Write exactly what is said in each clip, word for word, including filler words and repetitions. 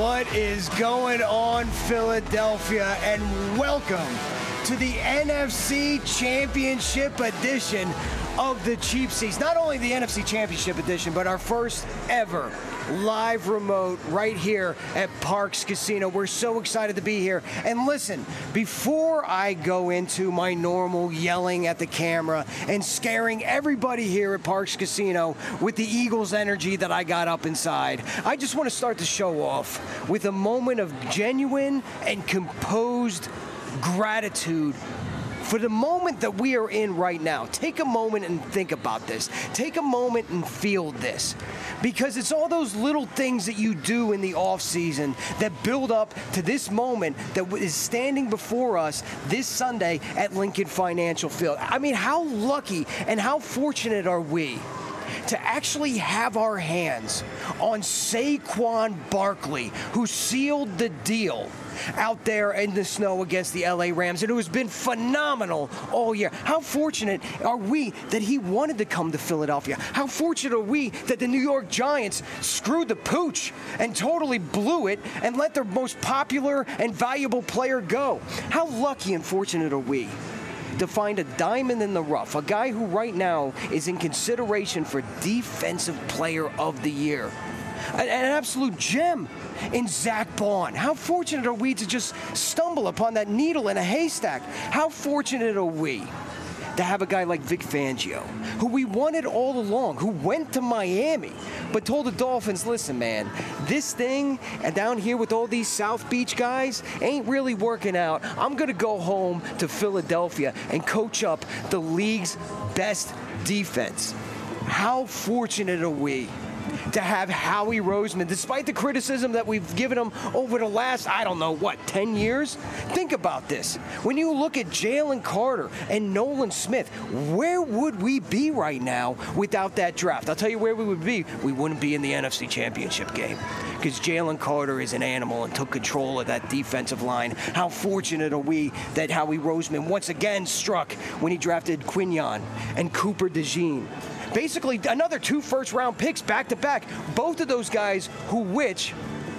What is going on, Philadelphia, and welcome to the N F C Championship edition of the Cheap Seats. Not only the N F C Championship edition, but our first ever live remote right here at Parx Casino. We're so excited to be here. And listen, before I go into my normal yelling at the camera and scaring everybody here at Parx Casino with the Eagles energy that I got up inside, I just want to start the show off with a moment of genuine and composed gratitude for the moment that we are in right now. Take a moment and think about this. Take a moment and feel this. Because it's all those little things that you do in the off season that build up to this moment that is standing before us this Sunday at Lincoln Financial Field. I mean, how lucky and how fortunate are we to actually have our hands on Saquon Barkley, who sealed the deal out there in the snow against the L A Rams, and who has been phenomenal all year. How fortunate are we that he wanted to come to Philadelphia? How fortunate are we that the New York Giants screwed the pooch and totally blew it and let their most popular and valuable player go? How lucky and fortunate are we to find a diamond in the rough, a guy who right now is in consideration for Defensive Player of the Year, an, an absolute gem in Zach Baun. How fortunate are we to just stumble upon that needle in a haystack? How fortunate are we to have a guy like Vic Fangio, who we wanted all along, who went to Miami, but told the Dolphins, listen, man, this thing and down here with all these South Beach guys ain't really working out. I'm going to go home to Philadelphia and coach up the league's best defense. How fortunate are we to have Howie Roseman, despite the criticism that we've given him over the last, I don't know, what, ten years? Think about this. When you look at Jalen Carter and Nolan Smith, where would we be right now without that draft? I'll tell you where we would be. We wouldn't be in the N F C Championship game, because Jalen Carter is an animal and took control of that defensive line. How fortunate are we that Howie Roseman once again struck when he drafted Quinyon and Cooper DeJean. Basically, another two first-round picks back-to-back. Both of those guys who which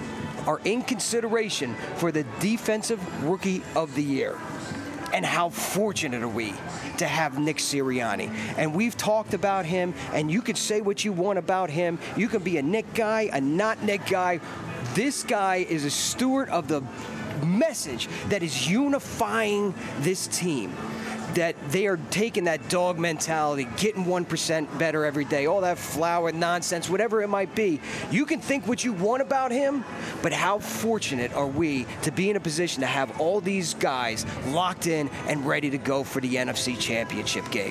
are in consideration for the Defensive Rookie of the Year. And how fortunate are we to have Nick Sirianni? And we've talked about him, and you can say what you want about him. You can be a Nick guy, a not Nick guy. This guy is a steward of the message that is unifying this team. That they are taking that dog mentality, getting one percent better every day, all that flower nonsense, whatever it might be. You can think what you want about him, but how fortunate are we to be in a position to have all these guys locked in and ready to go for the N F C Championship game.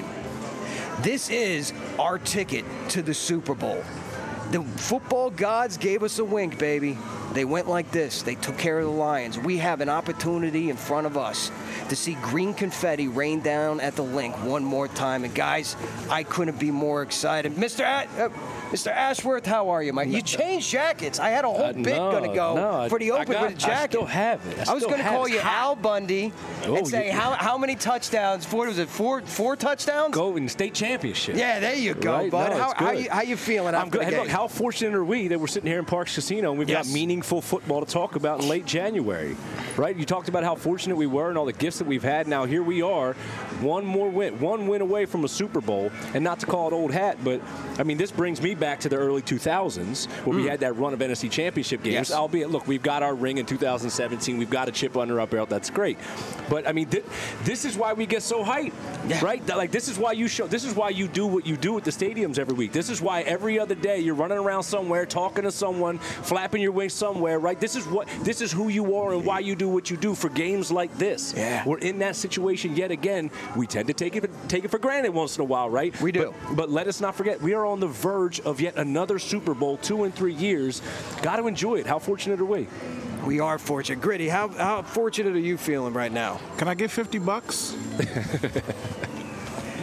This is our ticket to the Super Bowl. The football gods gave us a wink, baby. They went like this. They took care of the Lions. We have an opportunity in front of us to see green confetti rain down at the Link one more time. And guys, I couldn't be more excited. Mister A- uh, Mister Ashworth, how are you, Mike? You changed jackets. I had a whole uh, bit no, going to go no, for the open got, with the jacket. I still have it. I, I was going to call you Al Bundy oh, and say, you, how how many touchdowns? Four, was it four four touchdowns? Go in state championship. Yeah, there you go, right? bud. No, how, how, you, how you feeling I'm after good. the Hey, game? look, how fortunate are we that we're sitting here in Parx Casino and we've yes. got meaningful football to talk about in late January, right? You talked about how fortunate we were and all the gifts that we've had. Now here we are, one more win, one win away from a Super Bowl, and not to call it old hat, but I mean this brings me back to the early two thousands where mm. we had that run of N F C Championship games. Yes. Albeit, look, we've got our ring in two thousand seventeen. We've got a chip under our belt. That's great, but I mean th- this is why we get so hyped, yeah. right? That, like this is why you show. This is why you do what you do at the stadiums every week. This is why every other day you're running around somewhere, talking to someone, flapping your wings somewhere, right? This is what this is who you are and why you do what you do for games like this. Yeah. We're in that situation yet again. We tend to take it take it for granted once in a while, right? We do. But, but let us not forget, we are on the verge of yet another Super Bowl, two in three years. Got to enjoy it. How fortunate are we? We are fortunate. Gritty, how how fortunate are you feeling right now? Can I get fifty bucks?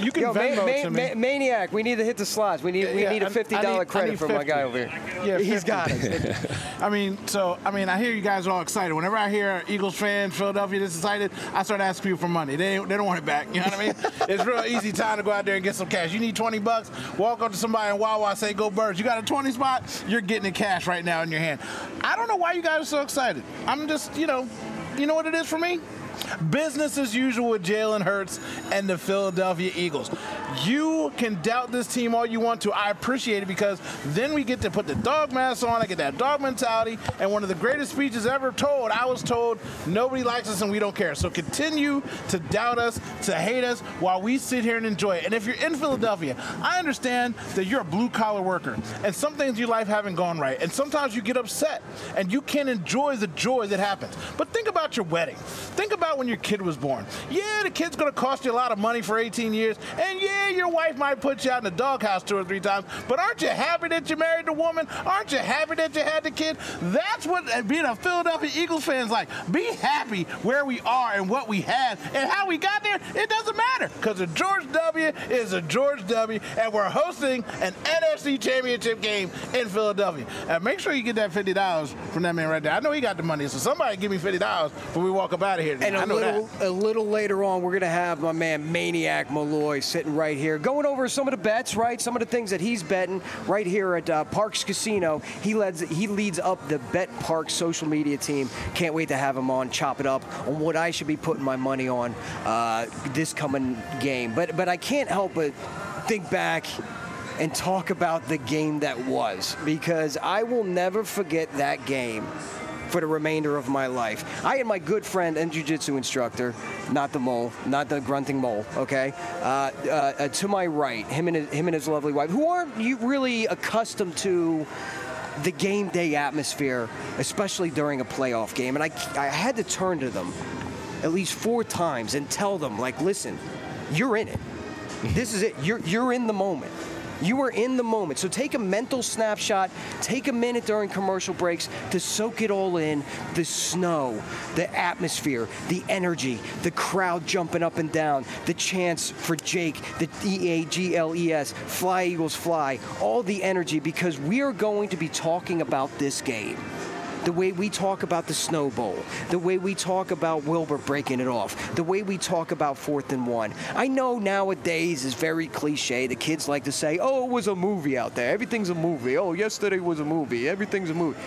you can Yo, Venmo ma- ma- to me. ma- Maniac, we need to hit the slots. We need we Yeah, need a I- fifty I dollar need- I credit need from my guy fifty. over here. Yeah, He's fifty. got it. I mean, so I mean, I hear you guys are all excited. Whenever I hear Eagles fans, Philadelphia this excited, I start asking people for money. They they don't want it back. You know what I mean? It's real easy time to go out there and get some cash. You need twenty bucks. Walk up to somebody in Wawa, say go Birds. You got a twenty spot. You're getting the cash right now in your hand. I don't know why you guys are so excited. I'm just, you know, you know what it is for me? Business as usual with Jalen Hurts and the Philadelphia Eagles. You can doubt this team all you want to. I appreciate it because then we get to put the dog mask on. I get that dog mentality. And one of the greatest speeches ever told, I was told, nobody likes us and we don't care. So continue to doubt us, to hate us, while we sit here and enjoy it. And if you're in Philadelphia, I understand that you're a blue-collar worker. And some things in your life haven't gone right. And sometimes you get upset. And you can't enjoy the joy that happens. But think about your wedding. Think about when your kid was born. Yeah, the kid's going to cost you a lot of money for eighteen years. And yeah, your wife might put you out in the doghouse two or three times. But aren't you happy that you married the woman? Aren't you happy that you had the kid? That's what being a Philadelphia Eagles fan is like. Be happy where we are and what we had and how we got there. It doesn't matter because a George W. is a George W. And we're hosting an N F C Championship game in Philadelphia. And make sure you get that fifty dollars from that man right there. I know he got the money, so somebody give me fifty dollars when we walk up out of here. And I a know little, that. a little later on, we're going to have my man Maniac Malloy sitting right here, going over some of the bets, right? Some of the things that he's betting right here at uh, Parks Casino. He leads, he leads up the Bet Parks social media team. Can't wait to have him on, chop it up on what I should be putting my money on uh, this coming game. But, but I can't help but think back and talk about the game that was, because I will never forget that game for the remainder of my life. I had my good friend and jiu-jitsu instructor, not the mole, not the grunting mole, okay, uh, uh, uh, to my right, him and his, him and his lovely wife, who aren't you really accustomed to the game day atmosphere, especially during a playoff game. And I, I had to turn to them at least four times and tell them, like, listen, you're in it. This is it. You're, you're in the moment. You are in the moment. So take a mental snapshot, take a minute during commercial breaks to soak it all in. The snow, the atmosphere, the energy, the crowd jumping up and down, the chants for Jake, the E A G L E S, Fly Eagles Fly, all the energy, because we are going to be talking about this game. The way we talk about the Snow Bowl, the way we talk about Wilbur breaking it off, the way we talk about fourth and one. I know nowadays is very cliche. The kids like to say, oh, it was a movie out there. Everything's a movie. Oh, yesterday was a movie. Everything's a movie.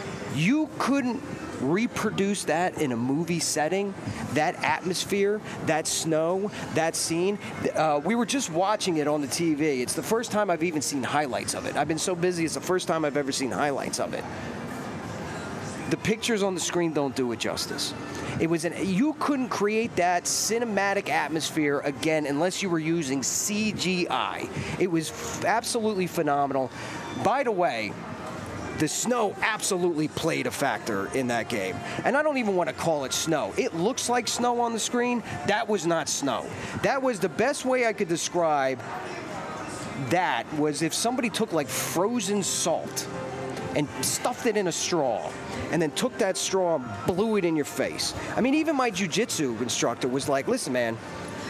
You couldn't reproduce that in a movie setting, that atmosphere, that snow, that scene. Uh, we were just watching it on the T V. It's the first time I've even seen highlights of it. I've been so busy, it's the first time I've ever seen highlights of it. The pictures on the screen don't do it justice. It was an, you couldn't create that cinematic atmosphere again unless you were using C G I. It was f- absolutely phenomenal. By the way, the snow absolutely played a factor in that game. And I don't even want to call it snow. It looks like snow on the screen. That was not snow. That was the best way I could describe that, was if somebody took like frozen salt and stuffed it in a straw, and then took that straw and blew it in your face. I mean, even my jiu-jitsu instructor was like, listen, man,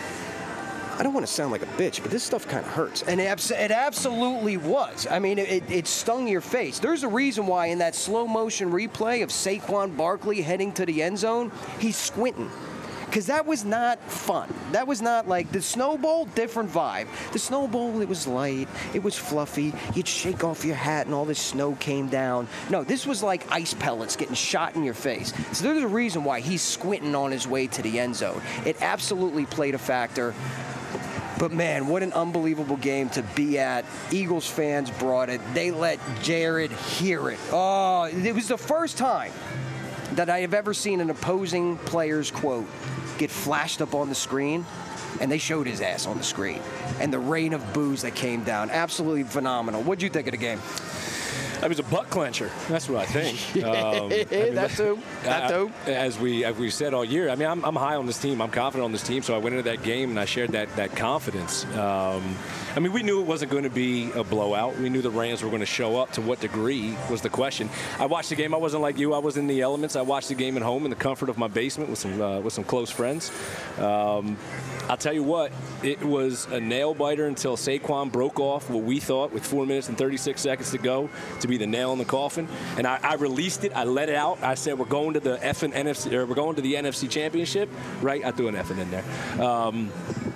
I don't want to sound like a bitch, but this stuff kind of hurts. And it, abs- it absolutely was. I mean, it, it stung your face. There's a reason why in that slow motion replay of Saquon Barkley heading to the end zone, he's squinting. Because that was not fun. That was not like the Snow Bowl, different vibe. The Snow Bowl, it was light, it was fluffy, you'd shake off your hat and all this snow came down. No, this was like ice pellets getting shot in your face. So there's a reason why he's squinting on his way to the end zone. It absolutely played a factor. But man, what an unbelievable game to be at. Eagles fans brought it. They let Jared hear it. Oh, it was the first time that I have ever seen an opposing player's quote get flashed up on the screen, and they showed his ass on the screen. And the rain of boos that came down, absolutely phenomenal. What'd you think of the game? I was a butt clencher. That's what I think. Um, I mean, that too. That too. As we as we said all year, I mean, I'm, I'm high on this team. I'm confident on this team. So I went into that game and I shared that that confidence. Um, I mean, we knew it wasn't going to be a blowout. We knew the Rams were going to show up. To what degree was the question. I watched the game. I wasn't like you. I was in the elements. I watched the game at home in the comfort of my basement with some uh, with some close friends. Um, I'll tell you what, it was a nail biter until Saquon broke off what we thought with four minutes and thirty-six seconds to go to be the nail in the coffin. And I, I released it. I let it out. I said, we're going to the F and N F C, or we're going to the N F C Championship, right? I threw an F in there. Um,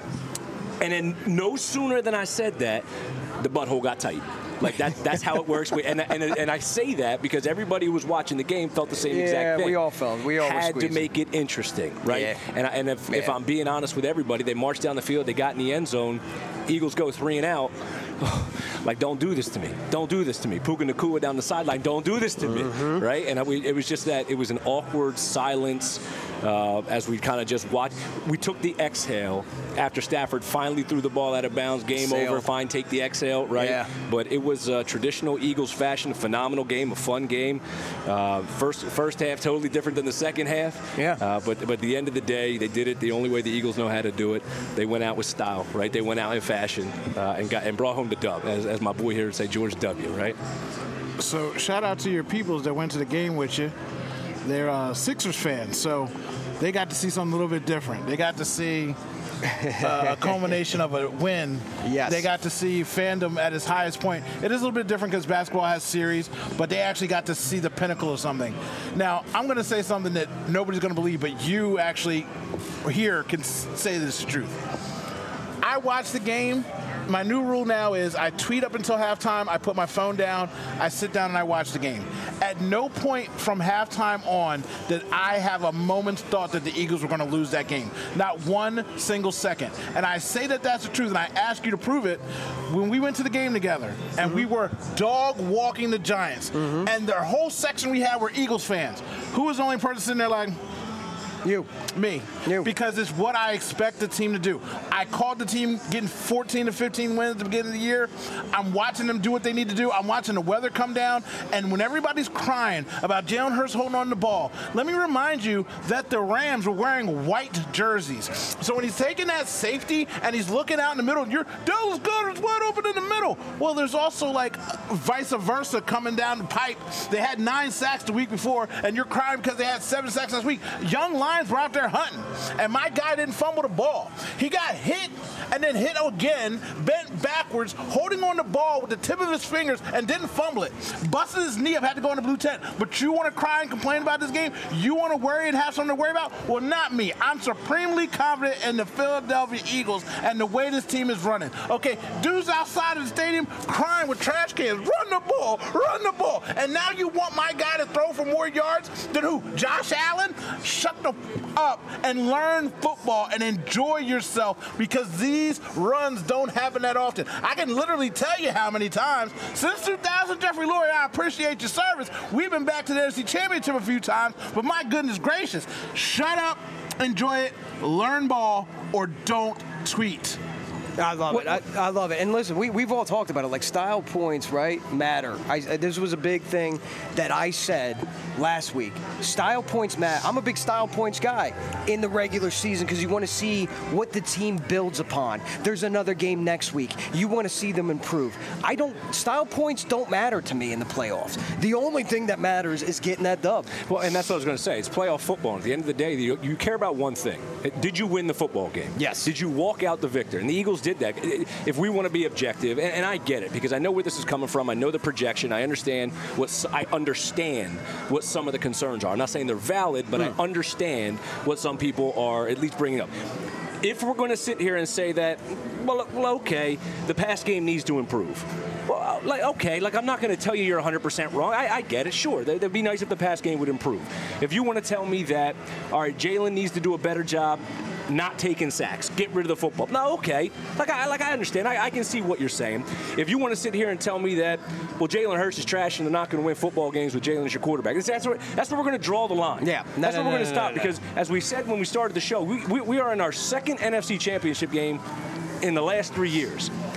and then no sooner than I said that, the butthole got tight. Like, that, that's how it works. And, and, and I say that because everybody who was watching the game felt the same yeah, exact thing. we all felt. We all had were to make it interesting, right? Yeah. And, and if, yeah. if I'm being honest with everybody, they marched down the field, they got in the end zone, Eagles go three and out. Like, don't do this to me. Don't do this to me. Puka Nacua down the sideline, don't do this to mm-hmm. me, right? And we, it was just that, it was an awkward silence uh, as we kind of just watched. We took the exhale after Stafford finally threw the ball out of bounds. Game Sail. over, fine, take the exhale, right? Yeah. But it was a traditional Eagles fashion, a phenomenal game, a fun game. Uh, first first half, totally different than the second half. Yeah. Uh, but, but at the end of the day, they did it the only way the Eagles know how to do it. They went out with style, right? They went out in fashion uh, and got and brought home the dub, as, as my boy here would say, George W., right? So shout out to your peoples that went to the game with you. They're uh, Sixers fans, so they got to see something a little bit different. They got to see uh, a culmination of a win. Yes. They got to see fandom at its highest point. It is a little bit different because basketball has series, but they actually got to see the pinnacle of something. Now, I'm going to say something that nobody's going to believe, but you actually here can say this is the truth. I watched the game. My new rule now is I tweet up until halftime, I put my phone down, I sit down and I watch the game. At no point from halftime on did I have a moment's thought that the Eagles were going to lose that game. Not one single second. And I say that that's the truth, and I ask you to prove it. When we went to the game together, and mm-hmm. we were dog walking the Giants, mm-hmm. and the whole section we had were Eagles fans, who was the only person sitting there like, You. Me. You. Because it's what I expect the team to do. I called the team getting fourteen to fifteen wins at the beginning of the year. I'm watching them do what they need to do. I'm watching the weather come down. And when everybody's crying about Jalen Hurts holding on to the ball, let me remind you that the Rams were wearing white jerseys. So when he's taking that safety and he's looking out in the middle, you're, Dallas Goedert's wide open in the middle. Well, there's also like vice versa coming down the pipe. They had nine sacks the week before, and you're crying because they had seven sacks last week. Young Lions were out there hunting, and my guy didn't fumble the ball. He got hit and then hit again, bent backwards, holding on the ball with the tip of his fingers and didn't fumble it. Busted his knee up, had to go in the blue tent. But you want to cry and complain about this game? You want to worry and have something to worry about? Well, not me. I'm supremely confident in the Philadelphia Eagles and the way this team is running. Okay, dudes outside of the stadium crying with trash cans. Run the ball, run the ball. And now you want my guy to throw for more yards than who? Josh Allen? Shut the up and learn football and enjoy yourself, because these runs don't happen that often. I can literally tell you how many times since two thousand, Jeffrey Lurie, I appreciate your service. We've been back to the N F C Championship a few times, but my goodness gracious, shut up, enjoy it, learn ball, or don't tweet. I love What- it. I, I love it. And listen, we, we've all talked about it. Like, style points, right, matter. I, this was a big thing that I said last week. Style points matter. I'm a big style points guy in the regular season because you want to see what the team builds upon. There's another game next week. You want to see them improve. I don't. Style points don't matter to me in the playoffs. The only thing that matters is getting that dub. Well, and that's what I was going to say. It's playoff football. At the end of the day, you, you care about one thing. Did you win the football game? Yes. Did you walk out the victor? And the Eagles did that. If we want to be objective, and, and I get it, because I know where this is coming from. I know the projection. I understand what I understand what some of the concerns are. I'm not saying they're valid, but mm. I understand what some people are at least bringing up. If we're going to sit here and say that, well, well, okay, the pass game needs to improve. Well, like, okay, like, I'm not going to tell you you're one hundred percent wrong. I, I get it, sure. That'd be nice if the pass game would improve. If you want to tell me that, all right, Jalen needs to do a better job not taking sacks, get rid of the football. No, okay. Like I like I understand. I, I can see what you're saying. If you want to sit here and tell me that, well, Jalen Hurts is trash and they're not going to win football games with Jalen as your quarterback, that's where, that's where we're going to draw the line. Yeah. No, that's no, where no, we're going to no, stop no, no. because, as we said when we started the show, we, we, we are in our second N F C Championship game in the last three years.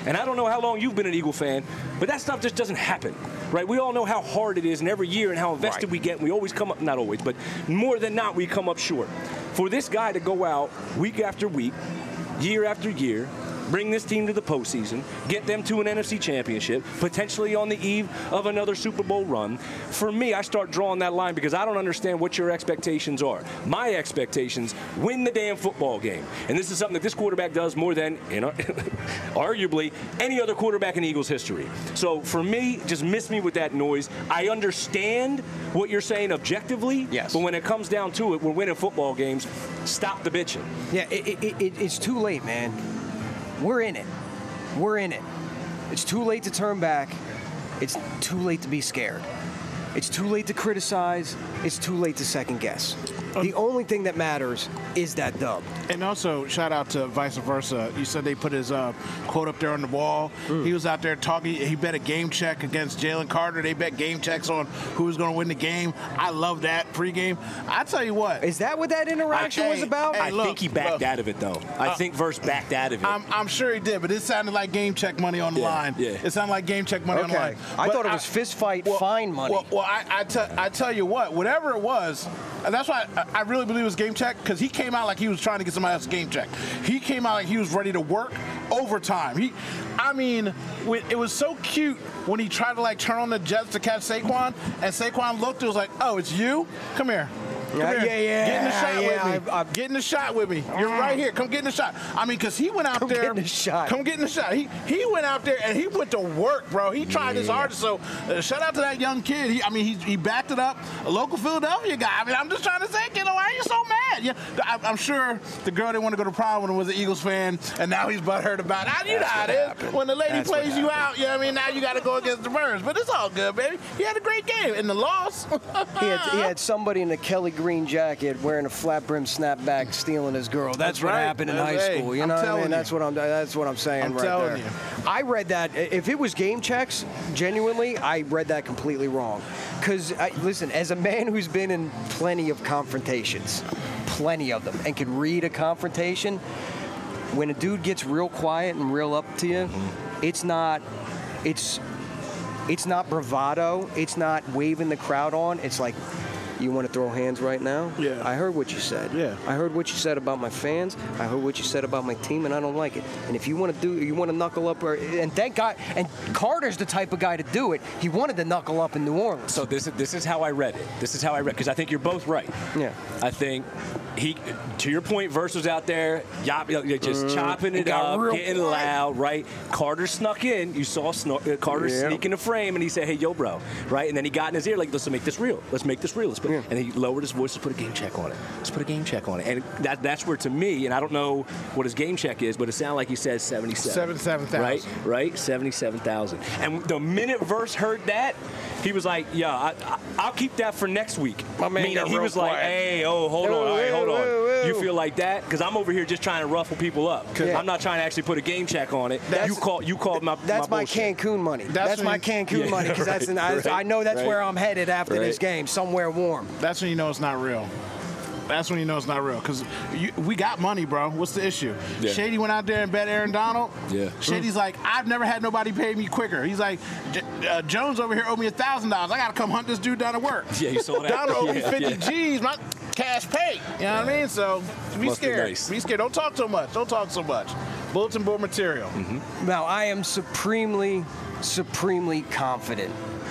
And I don't know how long you've been an Eagle fan, but that stuff just doesn't happen, right? We all know how hard it is, and every year and how invested right. we get. And we always come up, not always, but more than not, we come up short. For this guy to go out week after week, year after year, bring this team to the postseason, get them to an N F C championship, potentially on the eve of another Super Bowl run. For me, I start drawing that line because I don't understand what your expectations are. My expectations, win the damn football game. And this is something that this quarterback does more than, you know, arguably, any other quarterback in Eagles history. So for me, just miss me with that noise. I understand what you're saying objectively, yes. but when it comes down to it, we're winning football games. Stop the bitching. Yeah, it, it, it, it's too late, man. We're in it. We're in it. It's too late to turn back. It's too late to be scared. It's too late to criticize. It's too late to second guess. The only thing that matters is that dub. And also, shout out to Vice Versa. You said they put his uh, quote up there on the wall. Mm. He was out there talking. He bet a game check against Jalen Carter. They bet game checks on who was going to win the game. I love that pregame. I tell you what. Is that what that interaction I, was hey, about? Hey, I look, think he backed look. out of it, though. I uh, think Verse backed out of it. I'm, I'm sure he did, but it sounded like game check money on the yeah, line. Yeah. It sounded like game check money okay. on the line. I But thought it was I, fist fight well, fine money. Well, well I, I, te- I tell you what, whatever it was, and that's why I, I really believe it was game check, because he came out like he was trying to get somebody else's game check. He came out like he was ready to work overtime. He, I mean, it was so cute when he tried to like turn on the jets to catch Saquon, and Saquon looked, it was like, oh, it's you? Come here. Come yeah, here. yeah, yeah. Get in the shot yeah, with me. I've, I've, get in the shot with me. You're right here. Come get in the shot. I mean, because he went out come there. Come get in the shot. Come get in the shot. He he went out there and he went to work, bro. He tried yeah. his hardest. So uh, shout out to that young kid. He, I mean, he, he backed it up. A local Philadelphia guy. I mean, I'm just trying to say, kiddo, why are you so mad? Yeah, I, I'm sure the girl didn't want to go to prom when he was an Eagles fan, and now he's butthurt about it. You know how it is. Happened. When the lady That's plays you out, you know what I mean? Now you got to go against the Birds. But it's all good, baby. He had a great game. In the loss, he, had, he had somebody in a Kelly Green jacket wearing a flat brim snapback stealing his girl. That's, That's what right. happened in That's, high hey, school. You I'm know what I telling mean? you. That's what I'm. That's what I'm saying I'm right telling there. you. I read that. If it was game checks, genuinely, I read that completely wrong. Because listen, as a man who's been in plenty of confrontations, plenty of them, and can read a confrontation, when a dude gets real quiet and real up to you, mm-hmm. it's not. It's. It's not bravado. It's not waving the crowd on. It's like, you want to throw hands right now? Yeah. I heard what you said. Yeah. I heard what you said about my fans. I heard what you said about my team, and I don't like it. And if you want to do, you want to knuckle up, or, and thank God, and Carter's the type of guy to do it. He wanted to knuckle up in New Orleans. So this is this is how I read it. This is how I read, because I think you're both right. Yeah. I think he, to your point, Verse was out there, yop, yop, just mm, chopping it up, getting quiet. loud, right? Carter snuck in. You saw snu- uh, Carter yeah. sneak in the frame, and he said, "Hey, yo, bro," right? And then he got in his ear like, "Let's make this real. Let's make this real." Let's put, yeah. And he lowered his voice. Let's put a game check on it. Let's put a game check on it. And that that's where, to me, and I don't know what his game check is, but it sounded like he said seventy-seven. seventy-seven thousand. Right, right, seventy-seven thousand. And the minute Verse heard that, he was like, "Yeah, I, I, I'll keep that for next week." My man Meaning got he real was quiet. like, "Hey, oh, hold Whoa, on, all right, hold on. whoa, whoa. You feel like that? Because I'm over here just trying to ruffle people up. Yeah. I'm not trying to actually put a game check on it. That's, you call, you called my That's my, my bullshit. Cancun money. That's That's, my when- Cancun yeah, money because right, that's an, right, I know that's right. where I'm headed after Right. this game, somewhere warm. That's when you know it's not real. That's when you know it's not real. Because we got money, bro. What's the issue? Yeah. Shady went out there and bet Aaron Donald. Yeah. Shady's like, I've never had nobody pay me quicker. He's like, uh, Jones over here owed me one thousand dollars. I got to come hunt this dude down to work. Yeah, you saw that. Donald owed me Yeah, fifty yeah. G's. My cash pay. You know what I mean? So be Must be scared. nice. Be scared. Don't talk so much. Don't talk so much. Bulletin board material. Mm-hmm. Now, I am supremely, supremely confident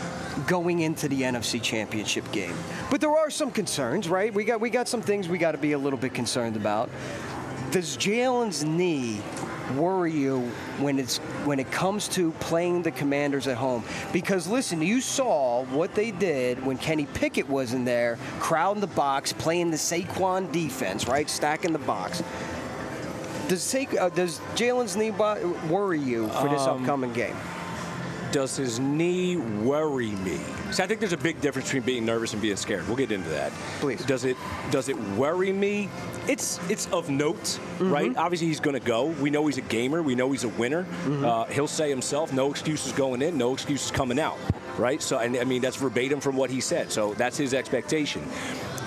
going into the N F C Championship game. But there are some concerns, right? We got we got some things we got to be a little bit concerned about. Does Jalen's knee worry you when it's when it comes to playing the Commanders at home? Because listen, you saw what they did when Kenny Pickett was in there, crowding the box, playing the Saquon defense, right, stacking the box. Does Sa- uh, does Jalen's knee bo- worry you for this Um, upcoming game? Does his knee worry me? See, I think there's a big difference between being nervous and being scared. We'll get into that. Please. Does it does it worry me? It's it's of note, mm-hmm. right? Obviously, he's going to go. We know he's a gamer. We know he's a winner. Mm-hmm. Uh, he'll say himself, no excuses going in, no excuses coming out, right? So, and I mean, that's verbatim from what he said. So that's his expectation.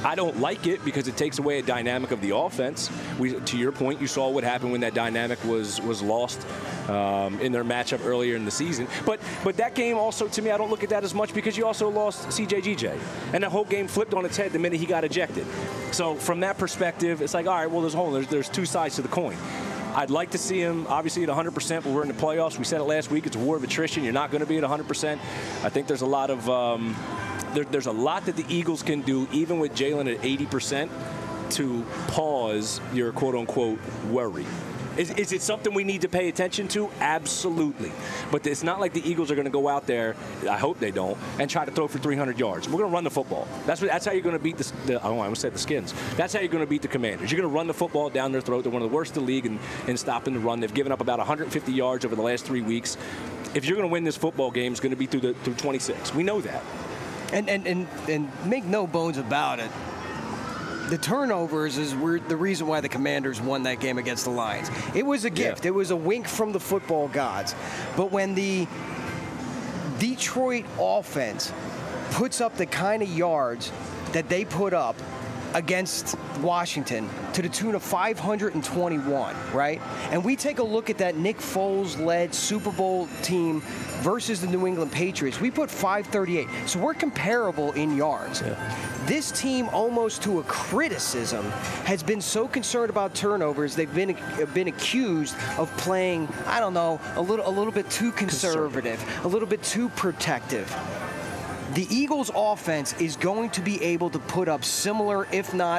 I don't like it because it takes away a dynamic of the offense. We, to your point, you saw what happened when that dynamic was was lost um, in their matchup earlier in the season. But but that game also, to me, I don't look at that as much because you also lost C J G J. And the whole game flipped on its head the minute he got ejected. So from that perspective, it's like, all right, well, there's a whole, there's, there's two sides to the coin. I'd like to see him, obviously, at one hundred percent, but we're in the playoffs. We said it last week. It's a war of attrition. You're not going to be at one hundred percent. I think there's a lot of um, there, there's a lot that the Eagles can do, even with Jalen at eighty percent, to pause your quote-unquote worry. Is, is it something we need to pay attention to? Absolutely. But it's not like the Eagles are going to go out there, I hope they don't, and try to throw for three hundred yards. We're going to run the football. That's what, that's how you're going to beat the, the I don't know, I almost said the Skins. That's how you're going to beat the Commanders. You're going to run the football down their throat. They're one of the worst in the league in, in stopping the run. They've given up about one hundred fifty yards over the last three weeks. If you're going to win this football game, it's going to be through the through twenty-six. We know that. And and, and, and make no bones about it. The turnovers is the reason why the Commanders won that game against the Lions. It was a gift. Yeah. It was a wink from the football gods. But when the Detroit offense puts up the kind of yards that they put up against Washington to the tune of five hundred twenty-one, right? And we take a look at that Nick Foles-led Super Bowl team versus the New England Patriots. We put five thirty-eight. So we're comparable in yards. Yeah. This team, almost to a criticism, has been so concerned about turnovers. They've been been accused of playing, I don't know, a little a little bit too conservative, conservative. a little bit too protective. The Eagles' offense is going to be able to put up similar, if not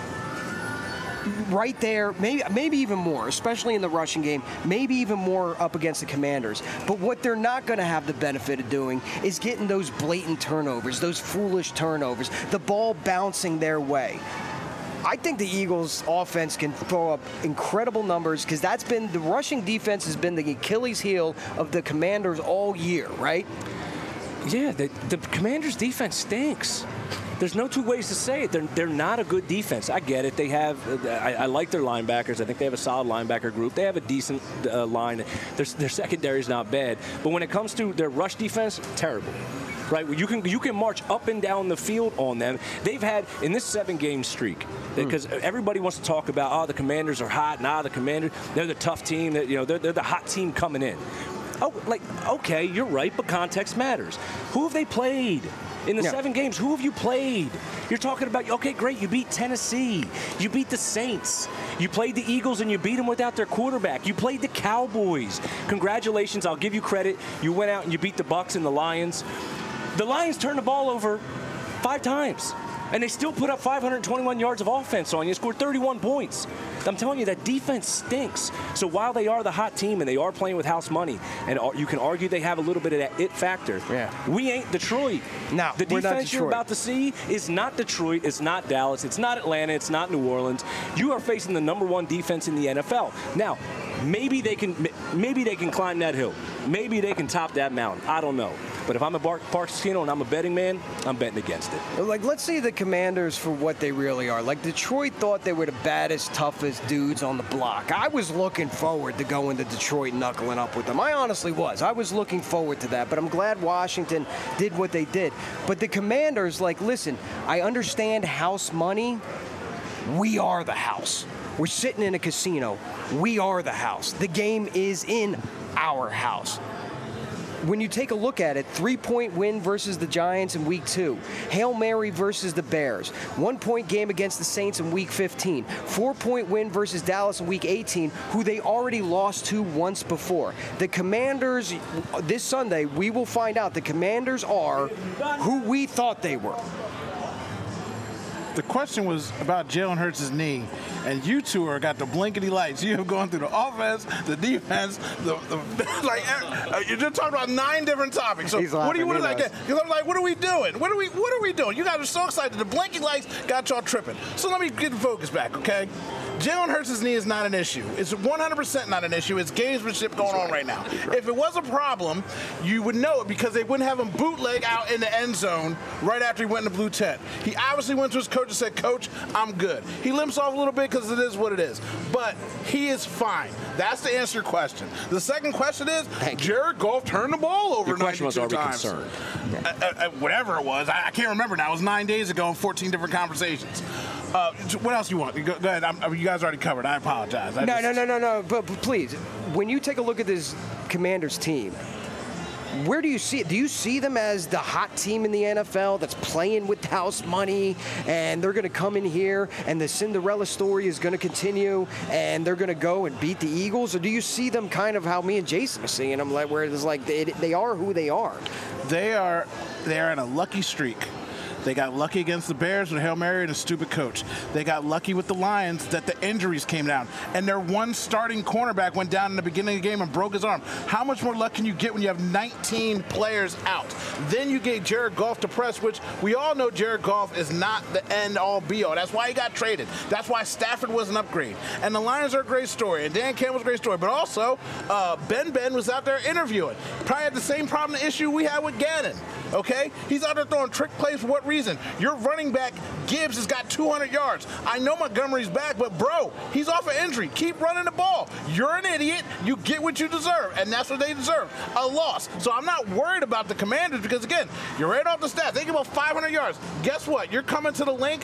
right there, maybe maybe even more, especially in the rushing game, maybe even more up against the Commanders. But what they're not going to have the benefit of doing is getting those blatant turnovers, those foolish turnovers, the ball bouncing their way. I think the Eagles' offense can throw up incredible numbers because that's been the rushing defense has been the Achilles heel of the Commanders all year, right? Yeah, the, the Commanders' defense stinks. There's no two ways to say it. They're, they're not a good defense. I get it. They have, I, I like their linebackers. I think they have a solid linebacker group. They have a decent uh, line. Their, their secondary is not bad. But when it comes to their rush defense, terrible. Right? You can you can march up and down the field on them. They've had, in this seven-game streak, because mm. everybody wants to talk about, oh, the Commanders are hot. Nah, the Commanders, they're the tough team. That, you know, they're, they're the hot team coming in. Oh, like, okay, you're right, but context matters. Who have they played? In the yeah. seven games, who have you played? You're talking about, okay, great, you beat Tennessee. You beat the Saints. You played the Eagles and you beat them without their quarterback. You played the Cowboys. Congratulations, I'll give you credit. You went out and you beat the Bucs and the Lions. The Lions turned the ball over five times. And they still put up five hundred twenty-one yards of offense on you, scored thirty-one points. I'm telling you, that defense stinks. So while they are the hot team and they are playing with house money, and you can argue they have a little bit of that it factor, yeah. we ain't Detroit. No, the we're defense not Detroit. You're about to see is not Detroit, it's not Dallas, it's not Atlanta, it's not New Orleans. You are facing the number one defense in the N F L. Now, maybe they can maybe they can climb that hill. Maybe they can top that mountain. I don't know. But if I'm a Park Casino and I'm a betting man, I'm betting against it. Like, let's see the Commanders for what they really are. Like, Detroit thought they were the baddest, toughest dudes on the block. I was looking forward to going to Detroit and knuckling up with them. I honestly was. I was looking forward to that. But I'm glad Washington did what they did. But the Commanders, like, listen, I understand house money. We are the house. We're sitting in a casino. We are the house. The game is in our house. When you take a look at it, three-point win versus the Giants in week two. Hail Mary versus the Bears. One-point game against the Saints in week fifteen. Four-point win versus Dallas in week eighteen, who they already lost to once before. The Commanders, this Sunday, we will find out the Commanders are who we thought they were. The question was about Jalen Hurts' knee, and you two are got the blinkety lights. You have gone through the offense, the defense, the, the like. Uh, you're just talking about nine different topics. So He's what do you want to like? You're like, what are we doing? What are we? What are we doing? You guys are so excited. The blinking lights got y'all tripping. So let me get the focus back, okay? Jalen Hurts' knee is not an issue. It's one hundred percent not an issue. It's gamesmanship going on right now. If it was a problem, you would know it because they wouldn't have him bootleg out in the end zone right after he went in the blue tent. He obviously went to his coach and said, Coach, I'm good. He limps off a little bit because it is what it is. But he is fine. That's the answer to your question. The second question is, Jared Goff turned the ball over Your question was, are we times. concerned? Uh, uh, whatever it was. I, I can't remember now. It was nine days ago and fourteen different conversations. Uh, what else you want? Go, go ahead. I'm, you guys already covered. I apologize. I no, just, no, no, no, no. But, but please, when you take a look at this Commanders team, where do you see it? Do you see them as the hot team in the N F L that's playing with house money and they're going to come in here and the Cinderella story is going to continue and they're going to go and beat the Eagles? Or do you see them kind of how me and Jason are seeing them, like where it's like they, they are who they are? They are, they are in a lucky streak. They got lucky against the Bears with a Hail Mary and a stupid coach. They got lucky with the Lions that the injuries came down. And their one starting cornerback went down in the beginning of the game and broke his arm. How much more luck can you get when you have nineteen players out? Then you get Jared Goff to press, which we all know Jared Goff is not the end-all be-all. That's why he got traded. That's why Stafford was an upgrade. And the Lions are a great story. And Dan Campbell's a great story. But also, uh, Ben Ben was out there interviewing. Probably had the same problem, the issue we had with Gannon. Okay? He's out there throwing trick plays for what reason? Your running back, Gibbs, has got two hundred yards. I know Montgomery's back, but, bro, he's off an injury. Keep running the ball. You're an idiot. You get what you deserve, and that's what they deserve, a loss. So I'm not worried about the Commanders because, again, you're right off the stats. They give up five hundred yards. Guess what? You're coming to the link.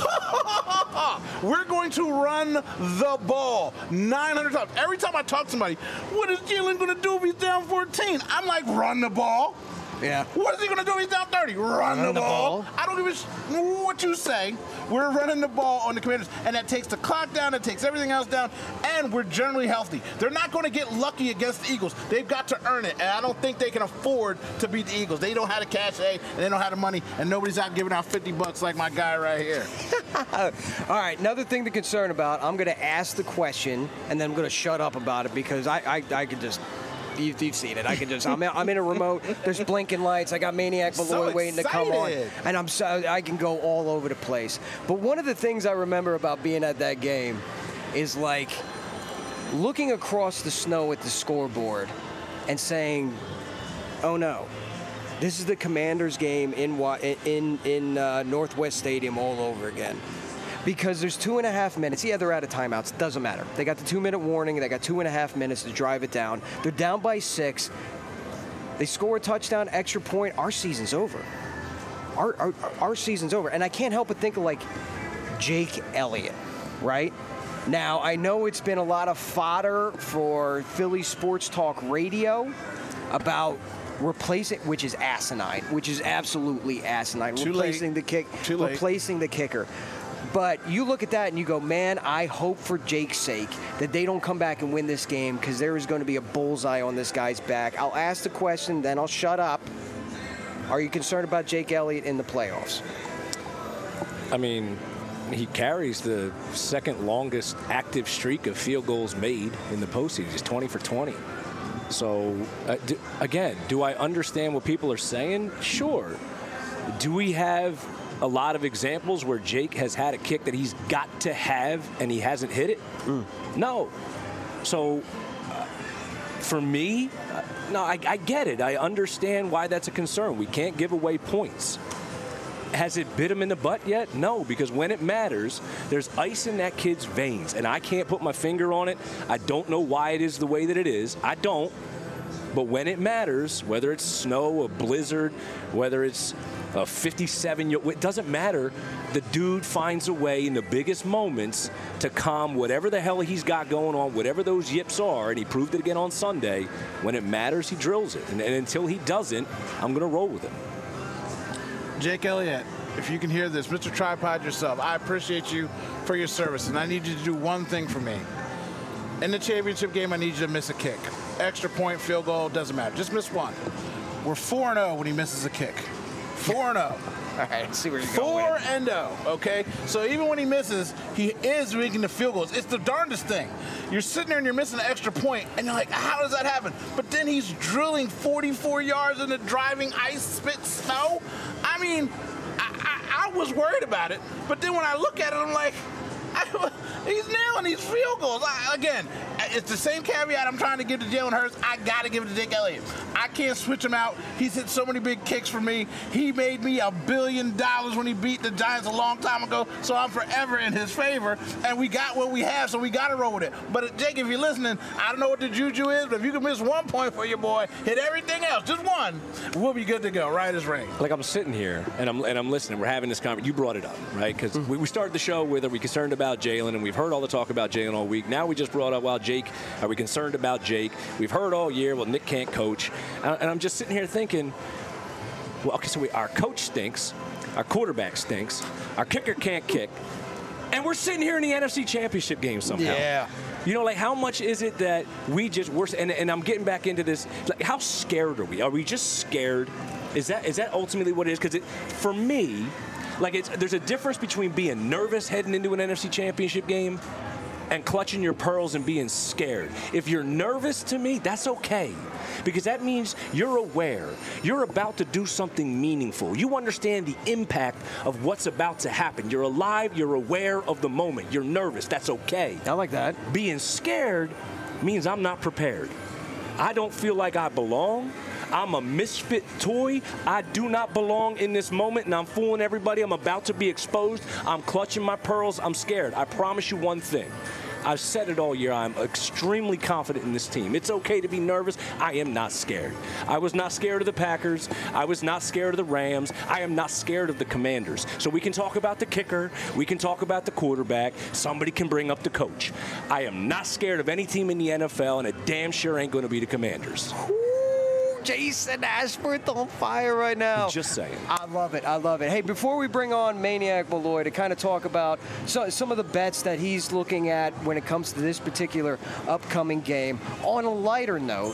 We're going to run the ball nine hundred times. Every time I talk to somebody, what is Jalen going to do if he's down fourteen? I'm like, run the ball. Yeah. What is he going to do if he's down thirty? Run, Run the, the ball. ball. I don't give a sh- what you say. We're running the ball on the Commanders, and that takes the clock down, it takes everything else down, and we're generally healthy. They're not going to get lucky against the Eagles. They've got to earn it, and I don't think they can afford to beat the Eagles. They don't have the cachet, and they don't have the money, and nobody's out giving out fifty bucks like my guy right here. All right, another thing to concern about, I'm going to ask the question, and then I'm going to shut up about it because I, I, I could just... You've, you've seen it. I can just. I'm, I'm in a remote. There's blinking lights. I got Maniac Malloy so waiting to come on, and I'm so I can go all over the place. But one of the things I remember about being at that game is like looking across the snow at the scoreboard and saying, "Oh no, this is the Commanders game in in in uh, Northwest Stadium all over again." Because there's two and a half minutes. Yeah, they're out of timeouts. Doesn't matter. They got the two-minute warning. They got two and a half minutes to drive it down. They're down by six. They score a touchdown, extra point. Our season's over. Our, our, our season's over. And I can't help but think of, like, Jake Elliott, right? Now, I know it's been a lot of fodder for Philly Sports Talk Radio about replacing, which is asinine, which is absolutely asinine. Too replacing late. the kick, Too late. replacing the kicker. But you look at that and you go, man, I hope for Jake's sake that they don't come back and win this game because there is going to be a bullseye on this guy's back. I'll ask the question, then I'll shut up. Are you concerned about Jake Elliott in the playoffs? I mean, he carries the second longest active streak of field goals made in the postseason. He's twenty for twenty. So, uh, do, again, do I understand what people are saying? Sure. Do we have a lot of examples where Jake has had a kick that he's got to have and he hasn't hit it? Mm. No. So, uh, for me, uh, no, I, I get it. I understand why that's a concern. We can't give away points. Has it bit him in the butt yet? No, because when it matters, there's ice in that kid's veins, and I can't put my finger on it. I don't know why it is the way that it is. I don't. But when it matters, whether it's snow, a blizzard, whether it's a fifty-seven, it doesn't matter. The dude finds a way in the biggest moments to calm whatever the hell he's got going on, whatever those yips are, and he proved it again on Sunday. When it matters, he drills it. And, and until he doesn't, I'm going to roll with him. Jake Elliott, if you can hear this, Mister Tripod yourself, I appreciate you for your service, and I need you to do one thing for me. In the championship game, I need you to miss a kick. Extra point, field goal, doesn't matter. Just miss one. We're four and oh when he misses a kick. four and oh. All right, let's see where you're Four going. and oh, okay? So even when he misses, he is making the field goals. It's the darndest thing. You're sitting there and you're missing an extra point, and you're like, how does that happen? But then he's drilling forty-four yards in the driving ice, spit, snow. I mean, I, I, I was worried about it, but then when I look at it, I'm like, I, He's nailing these field goals. I, again, it's the same caveat I'm trying to give to Jalen Hurts. I got to give it to Jake Elliott. I can't switch him out. He's hit so many big kicks for me. He made me a billion dollars when he beat the Giants a long time ago, so I'm forever in his favor. And we got what we have, so we got to roll with it. But, Jake, if you're listening, I don't know what the juju is, but if you can miss one point for your boy, hit everything else, just one, we'll be good to go, right as rain. Like, I'm sitting here, and I'm and I'm listening. We're having this conversation. You brought it up, right? Because mm-hmm. we, we started the show with, are we concerned about Jalen? And we've heard all the talk about Jalen all week. Now we just brought up, well, Jake, are we concerned about Jake? We've heard all year, well, Nick can't coach. And, and I'm just sitting here thinking, well, okay, so we, our coach stinks. Our quarterback stinks. Our kicker can't kick. And we're sitting here in the N F C Championship game somehow. Yeah. You know, like, how much is it that we just, we're, and, and I'm getting back into this, like, how scared are we? Are we just scared? Is that is that ultimately what it is? Because for me, like, it's, there's a difference between being nervous heading into an N F C Championship game and clutching your pearls and being scared. If you're nervous, to me, that's okay. Because that means you're aware. You're about to do something meaningful. You understand the impact of what's about to happen. You're alive. You're aware of the moment. You're nervous. That's okay. I like that. Being scared means I'm not prepared. I don't feel like I belong. I'm a misfit toy. I do not belong in this moment, and I'm fooling everybody. I'm about to be exposed. I'm clutching my pearls. I'm scared. I promise you one thing. I've said it all year. I'm extremely confident in this team. It's okay to be nervous. I am not scared. I was not scared of the Packers. I was not scared of the Rams. I am not scared of the Commanders. So we can talk about the kicker. We can talk about the quarterback. Somebody can bring up the coach. I am not scared of any team in the N F L, and it damn sure ain't going to be the Commanders. Jason Ashworth on fire right now. Just saying. I love it. I love it. Hey, before we bring on Maniac Malloy to kind of talk about so, some of the bets that he's looking at when it comes to this particular upcoming game, on a lighter note,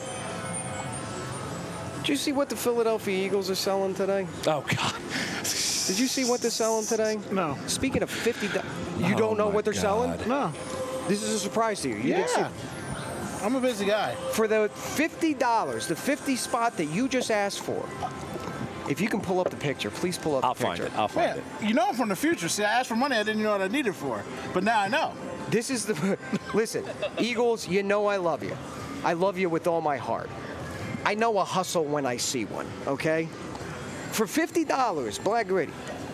did you see what the Philadelphia Eagles are selling today? Oh, God. Did you see what they're selling today? No. Speaking of fifty dollars, you oh don't know what they're God. selling? No. This is a surprise to you. You yeah. didn't see I'm a busy guy. For the fifty dollars, the fifty spot that you just asked for, if you can pull up the picture, please pull up I'll the picture. find it. I'll find Yeah, it. you know I'm from the future. See, I asked for money I didn't know what I needed for. But now I know. This is the, listen, Eagles, you know I love you. I love you with all my heart. I know a hustle when I see one, okay? For fifty dollars, Black Gritty,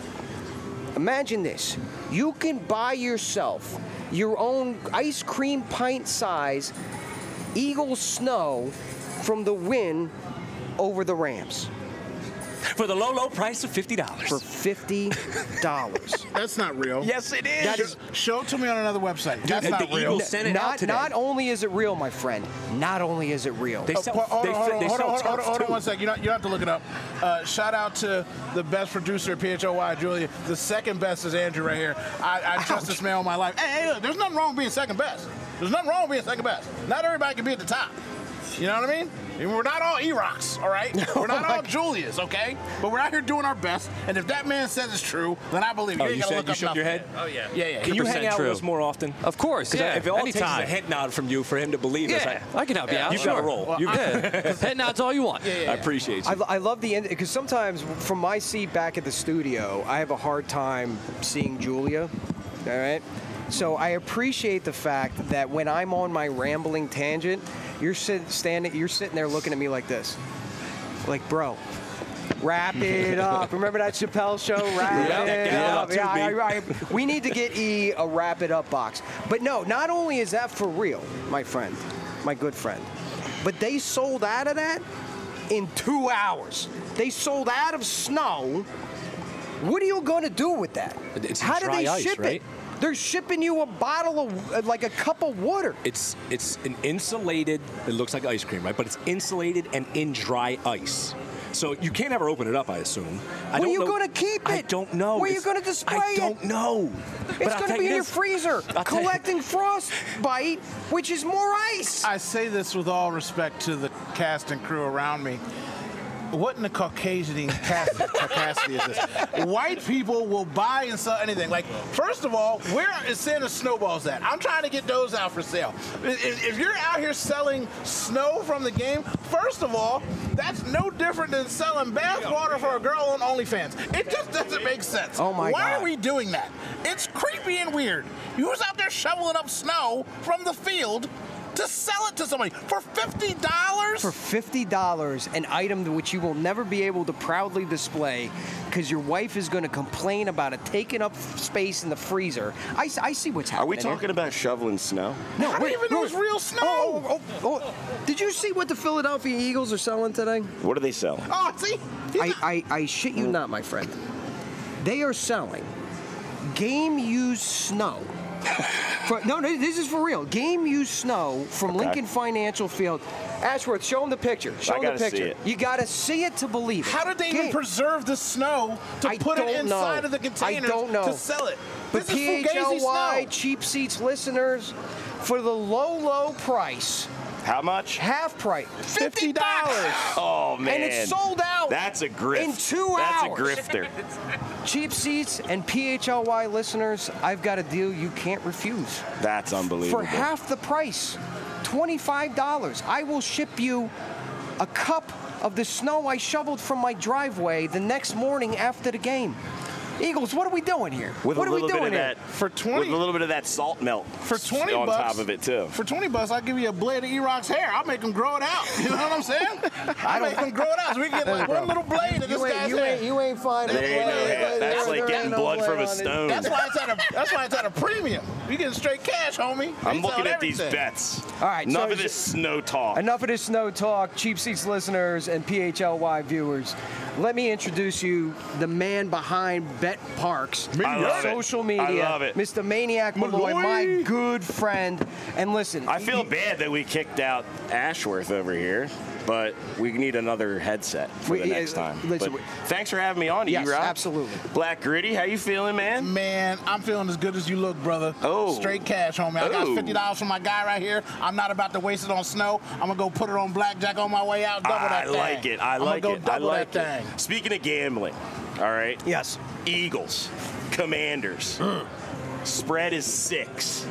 imagine this. You can buy yourself your own ice cream pint size Eagle snow from the win over the Rams. For the low, low price of fifty dollars. For fifty dollars. That's not real. Yes, it is. That is Show it to me on another website. That's Dude, not the real. Eagles sent it out not, today. not only is it real, my friend, not only is it real. They sell, Oh, hold they, on, hold on, they hold sell on, hold on, turf, hold on too. one second. You don't, you don't have to look it up. Uh, shout out to the best producer at P H O Y, Julia. The second best is Andrew right here. I, I trust this man all my life. Hey, hey, look, there's nothing wrong with being second best. There's nothing wrong with being second best. Not everybody can be at the top. You know what I mean? And we're not all E-Rocks, all right? We're not all Julias, okay? But we're out here doing our best, and if that man says it's true, then I believe you. Oh, You you ain't gotta said look you up shook nothing. your head? Oh, yeah. Yeah, yeah. Can you hang out true. with us more often? Of course, yeah. If it all takes is Anytime. a head nod from you for him to believe us, Yeah, I, I can help you out. you've sure. got to roll. You've- Yeah. Head nods all you want. Yeah, yeah, I yeah. appreciate you. I, I love the end because sometimes from my seat back at the studio, I have a hard time seeing Julia. All right. So I appreciate the fact that when I'm on my rambling tangent, you're sit, standing, you're sitting there looking at me like this, like, bro, wrap it up. Remember that Chappelle show? Wrap Yeah, it get it up. up too, Yeah, I, B. I, we need to get E a wrap it up box. But no, not only is that for real, my friend, my good friend, but they sold out of that in two hours. They sold out of snow. What are you going to do with that? It's How do dry they ice, ship right? it? They're shipping you a bottle of, uh, like a cup of water. It's it's an insulated, it looks like ice cream, right? But it's insulated and in dry ice. So you can't ever open it up, I assume. I Where don't are you know- going to keep it? I don't know. Where are you It's- going to display I it? don't know. It's going to be in your freezer, I'll tell you- collecting frostbite, which is more ice. I say this with all respect to the cast and crew around me. What in the Caucasian capacity is this? White people will buy and sell anything. Like, first of all, where is Santa snowballs at? I'm trying to get those out for sale. If, if you're out here selling snow from the game, first of all, that's no different than selling bath water for a girl on OnlyFans. It just doesn't make sense. Oh my Why God. are we doing that? It's creepy and weird. Who's out there shoveling up snow from the field to sell it to somebody for fifty dollars? For fifty dollars, an item to which you will never be able to proudly display because your wife is going to complain about it taking up space in the freezer. I, I see what's Are happening we talking here. about shoveling snow? No, I didn't even know it was real snow. Oh, oh, oh, oh. Did you see what the Philadelphia Eagles are selling today? What do they sell? Oh, see? I, I, I shit you not, my friend. They are selling game-used snow. For, no, no, this is for real. Game-used snow from Okay. Lincoln Financial Field. Ashworth, show them the picture. Show I them the gotta see picture. it. You got to see it to believe it. How did they even Game- preserve the snow to I put it don't inside know. of the containers I don't know. to sell it? But This is P H Fugazi L Y snow. Cheap Seats listeners, for the low, low price, How much? half price, fifty dollars. Oh, man. And it's sold out. That's a grift. in two That's hours. a grifter. Cheap Seats and P H L Y listeners, I've got a deal you can't refuse. That's unbelievable. For half the price, twenty-five dollars, I will ship you a cup of the snow I shoveled from my driveway the next morning after the game. Eagles, what are we doing here? With what a are we little doing bit of here? that, For twenty with a little bit of that salt melt For twenty on bucks, top of it too. For twenty bucks, I'll give you a blade of E-Rock's hair. I'll make him grow it out. You know what I'm saying? I'll make him grow it out so we can get like one little blade of this You ain't, guy's you hair. ain't, you ain't finding There ain't no it. hair. That's like getting blood from a stone. That's why it's at a. That's why it's at a premium. You getting straight cash, homie. I'm We looking selling at these everything. bets. All right, Enough so of this snow talk. Enough of this snow talk, Cheap Seats listeners and P H L Y viewers. Let me introduce you the man behind Bet Parks, I love it. social media, I love it. Mister Maniac Malloy, my good friend. And listen, I feel he- bad that we kicked out Ashworth over here, but we need another headset for We- the yeah, next time. listen, But we- thanks for having me on, Yes, E-Rock. absolutely. Black Gritty, how you feeling, man? Man, I'm feeling as good as you look, brother. Oh. Straight cash, homie. I got Oh. fifty dollars from my guy right here. I'm not about to waste it on snow. I'm going to go put it on blackjack on my way out. Double I that thing. like it. I I'm like gonna it. go I double like that it. thing. Speaking of gambling, all right? Yes. Eagles, Commanders. Spread is six.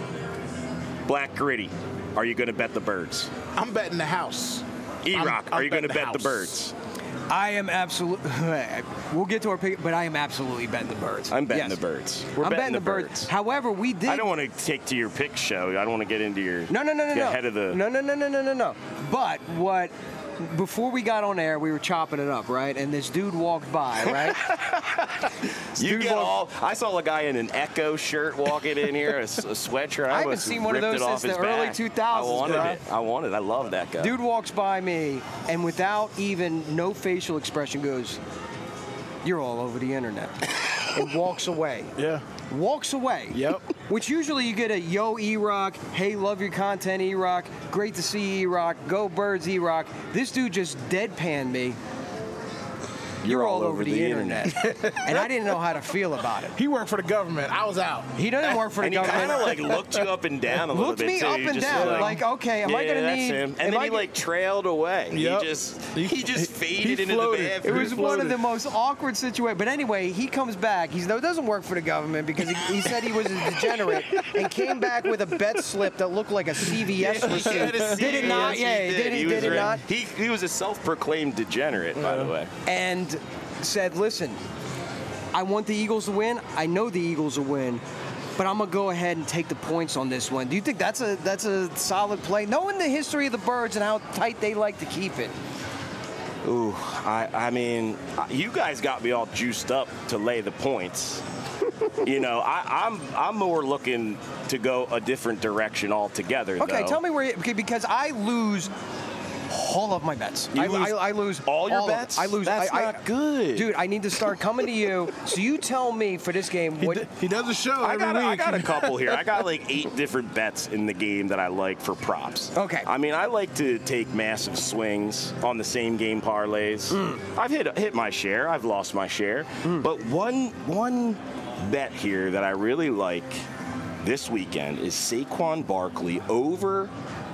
Black Gritty, are you going to bet the birds? I'm betting the house. E-Rock, I'm- are I'm you going to betting bet the the house. birds? I am absolutely. We'll get to our pick, but I am absolutely betting the birds. I'm betting Yes. the birds. We're I'm betting, betting the birds. However, we did. I don't want to take to your pick show. I don't want to get into your No, no, no, no, get no. ahead of the. No, no, no, no, no, no, no. But what? Before we got on air, we were chopping it up, right? And this dude walked by, right? You Dude get walked- all. I saw a guy in an Echo shirt walking in here, a, s- a sweatshirt. I haven't must have seen one of ripped those it off since his the early back. two thousands, I wanted bro. it. I wanted. I love that guy. Dude walks by me, and without even no facial expression, goes, "You're all over the internet," and walks away. Yeah. Walks away. Yep. Which usually you get a yo E-Rock, hey, love your content E-Rock, great to see E-Rock, go Birds E-Rock. This dude just deadpanned me. You're, all, over, the, internet. And I didn't know how to feel about it. He worked for the government. I was out. He doesn't work for the and he government. kind of like looked you up and down a little Looked bit me too. up You and just down, like, like, okay, am yeah, I gonna that's need- him. am And then I he g- like trailed away. Yep. He just He- he, just he faded into floated. the It bathroom. was one of the most awkward situations. But anyway, he comes back. He doesn't work for the government because he, he said he was a degenerate and came back with a bet slip that looked like a C V S receipt. He had a Did it not? C V S, Yeah, he did, he, was did it re- not? He he was a self-proclaimed degenerate, by the way. And said, listen, I want the Eagles to win. I know the Eagles will win. But I'm gonna go ahead and take the points on this one. Do you think that's a that's a solid play? Knowing the history of the Birds and how tight they like to keep it. Ooh, I, I mean, you guys got me all juiced up to lay the points. You know, I, I'm I'm more looking to go a different direction altogether. Okay, though. tell me where you, okay, because I lose all of my bets. You I, lose I, I lose all your of them. bets? I lose. That's I, not I, good. dude. I need to start coming to you. So you tell me for this game He, what. d- he does a show I every got, a, I week. got a couple here. I got like eight different bets in the game that I like for props. Okay. I mean, I like to take massive swings on the same game parlays. Mm. I've hit hit my share. I've lost my share. But one one bet here that I really like this weekend is Saquon Barkley over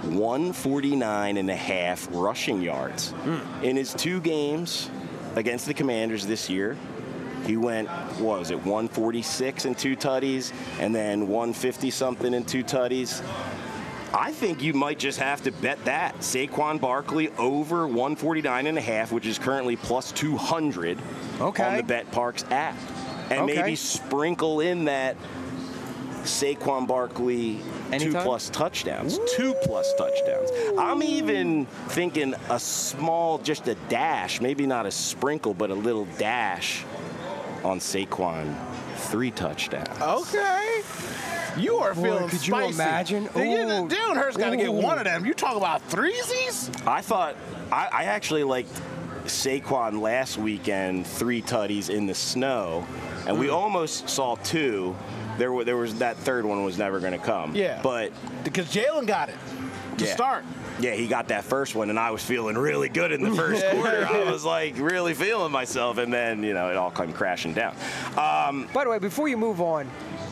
one forty-nine and a half rushing yards. Mm. In his two games against the Commanders this year, he went, what was it, one forty-six and two tutties, and then one fifty something and two tutties. I think you might just have to bet that. Saquon Barkley over one forty-nine and a half, which is currently plus two hundred okay. on the BetParx app. And okay. maybe sprinkle in that Saquon Barkley Anytime? two plus touchdowns. Ooh. Two plus touchdowns. I'm even thinking a small, just a dash, maybe not a sprinkle, but a little dash on Saquon, three touchdowns. Okay. You are Boy, feeling could spicy. you imagine? Jalen Hurts got to get one of them. You talk about threesies? I thought, I, I actually liked Saquon last weekend, three tutties in the snow, and mm. we almost saw two. There, were, there was that third one was never going to come. Yeah. But because Jalen got it to yeah. start. Yeah, he got that first one, and I was feeling really good in the first quarter. I was like really feeling myself, and then you know it all came crashing down. Um, By the way, before you move on,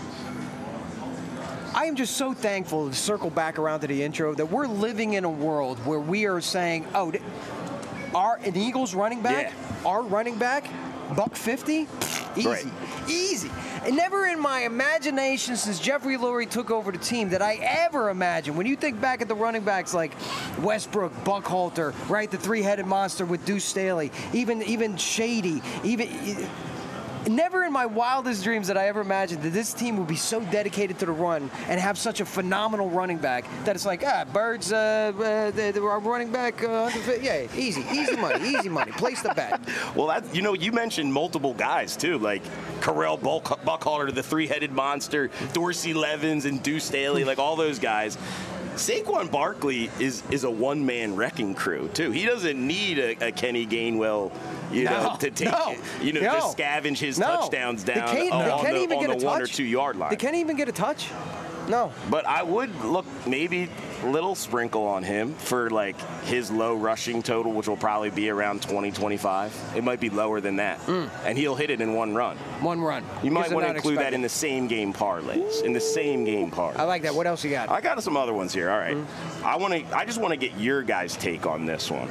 I am just so thankful to circle back around to the intro that we're living in a world where we are saying, oh, our an Eagles running back, yeah. our running back, buck fifty, easy, right. easy. And never in my imagination since Jeffrey Lurie took over the team did I ever imagine, when you think back at the running backs like Westbrook, Buckhalter, right, the three-headed monster with Deuce Staley, even even Shady, even. Never in my wildest dreams did I ever imagine that this team would be so dedicated to the run and have such a phenomenal running back that it's like, ah, Birds, uh, uh, they, they were running back, uh, yeah, easy, easy money, easy money. Place the bet. Well, that, you know, you mentioned multiple guys, too, like Carell Buckhalter, the three-headed monster, Dorsey Levens and Deuce Staley, like all those guys. Saquon Barkley is is a one-man wrecking crew, too. He doesn't need a, a Kenny Gainwell, you no, know, to take, no, you know, no. just scavenge his no. touchdowns down they can't, on, they on can't the, even on get the a one touch. or two-yard line. They can't even get a touch. No. But I would look maybe a little sprinkle on him for, like, his low rushing total, which will probably be around twenty, twenty-five. It might be lower than that. Mm. And he'll hit it in one run. One run. You might want to include that in the same game parlays. In the same game parlays. I like that. What else you got? I got some other ones here. All right. Mm. I want to. I just want to get your guys' take on this one.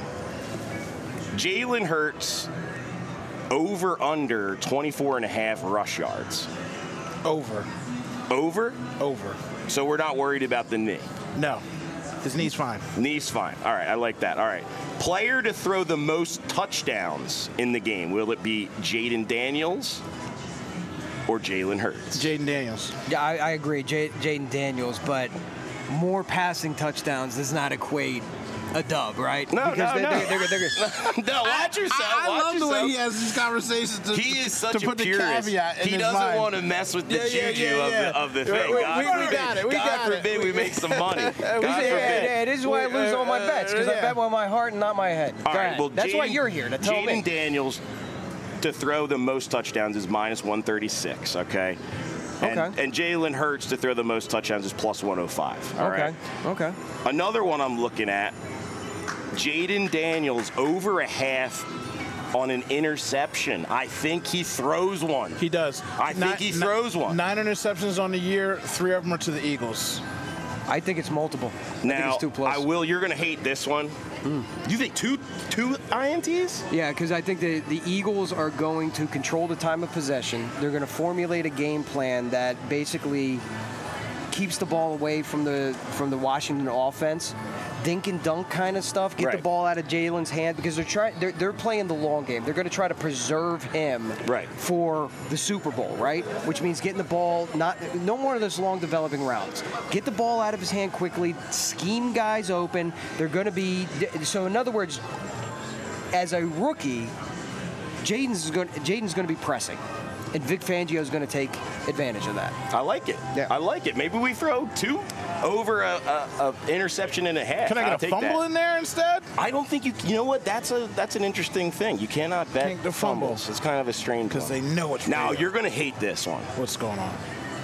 Jalen Hurts over under twenty-four and a half rush yards. Over. Over? Over. So we're not worried about the knee? No. His knee's fine. Knee's fine. All right, I like that. All right. Player to throw the most touchdowns in the game. Will it be Jaden Daniels or Jalen Hurts? Jaden Daniels. Yeah, I, I agree. J- Jaden Daniels, but more passing touchdowns does not equate a dub, right? No, because no, they're, no. They're, they're, they're, they're, no, watch yourself. I, I watch love yourself. the way he has these conversations. To, he is such to a put the purist. caveat in He his doesn't mind. want to mess with the Yeah, yeah, juju yeah, yeah. of the, of the thing. We, God we, forbid, we got it. We God got forbid it. we make some money. God yeah, forbid. yeah, it is why I lose all my bets, because Uh, I yeah. bet with my heart and not my head. All Go right, ahead. well, That's Jaden, why you're here, to tell me. Jaden Daniels to throw the most touchdowns is minus one thirty-six, okay? And, Okay. and Jalen Hurts to throw the most touchdowns is plus one oh five, all Okay, right? okay. Another one I'm looking at, Jaden Daniels over a half on an interception. I think he throws one. He does. I think he throws one. Nine interceptions on the year. Three of them are to the Eagles. I think it's multiple. I think Now, it's two plus. I will. You're going to hate this one. Mm. You think two two I N Ts? Yeah, because I think the, the Eagles are going to control the time of possession. They're going to formulate a game plan that basically keeps the ball away from the from the Washington offense. Dink and dunk kind of stuff. Get Right. the ball out of Jalen's hand because they're trying. They're, they're playing the long game. They're going to try to preserve him Right. for the Super Bowl, right? Which means getting the ball, not no more of those long developing routes. Get the ball out of his hand quickly. Scheme guys open. They're going to be. So in other words, as a rookie, Jaden's going. Jaden's going to be pressing. And Vic Fangio is going to take advantage of that. I like it. Yeah. I like it. Maybe we throw two over a, a, a interception and a half. Can I I'll get a take fumble that. in there instead? I don't think you. You know what? That's a that's an interesting thing. You cannot bet Think the fumble. fumbles. It's kind of a strange Because one. they know it's Now real. you're going to hate this one. What's going on?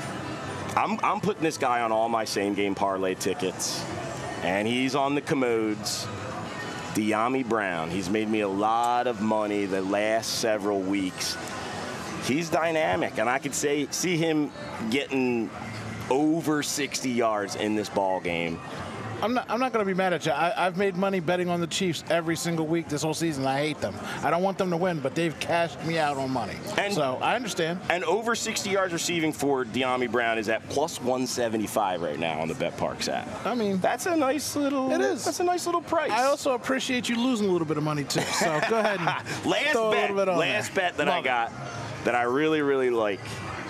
I'm I'm putting this guy on all my same game parlay tickets, and he's on the commodes. De'Ami Brown. He's made me a lot of money the last several weeks. He's dynamic, and I could say see him getting over sixty yards in this ball game. I'm not. I'm not going to be mad at you. I, I've made money betting on the Chiefs every single week this whole season. I hate them. I don't want them to win, but they've cashed me out on money. And, so I understand. And over sixty yards receiving for De'Ami Brown is at plus one seventy-five right now on the BetParks app. I mean, that's a nice little. It is. That's a nice little price. I also appreciate you losing a little bit of money too. So go ahead and last throw bet. a little bit on last there. bet that Love I got it. that I really really like.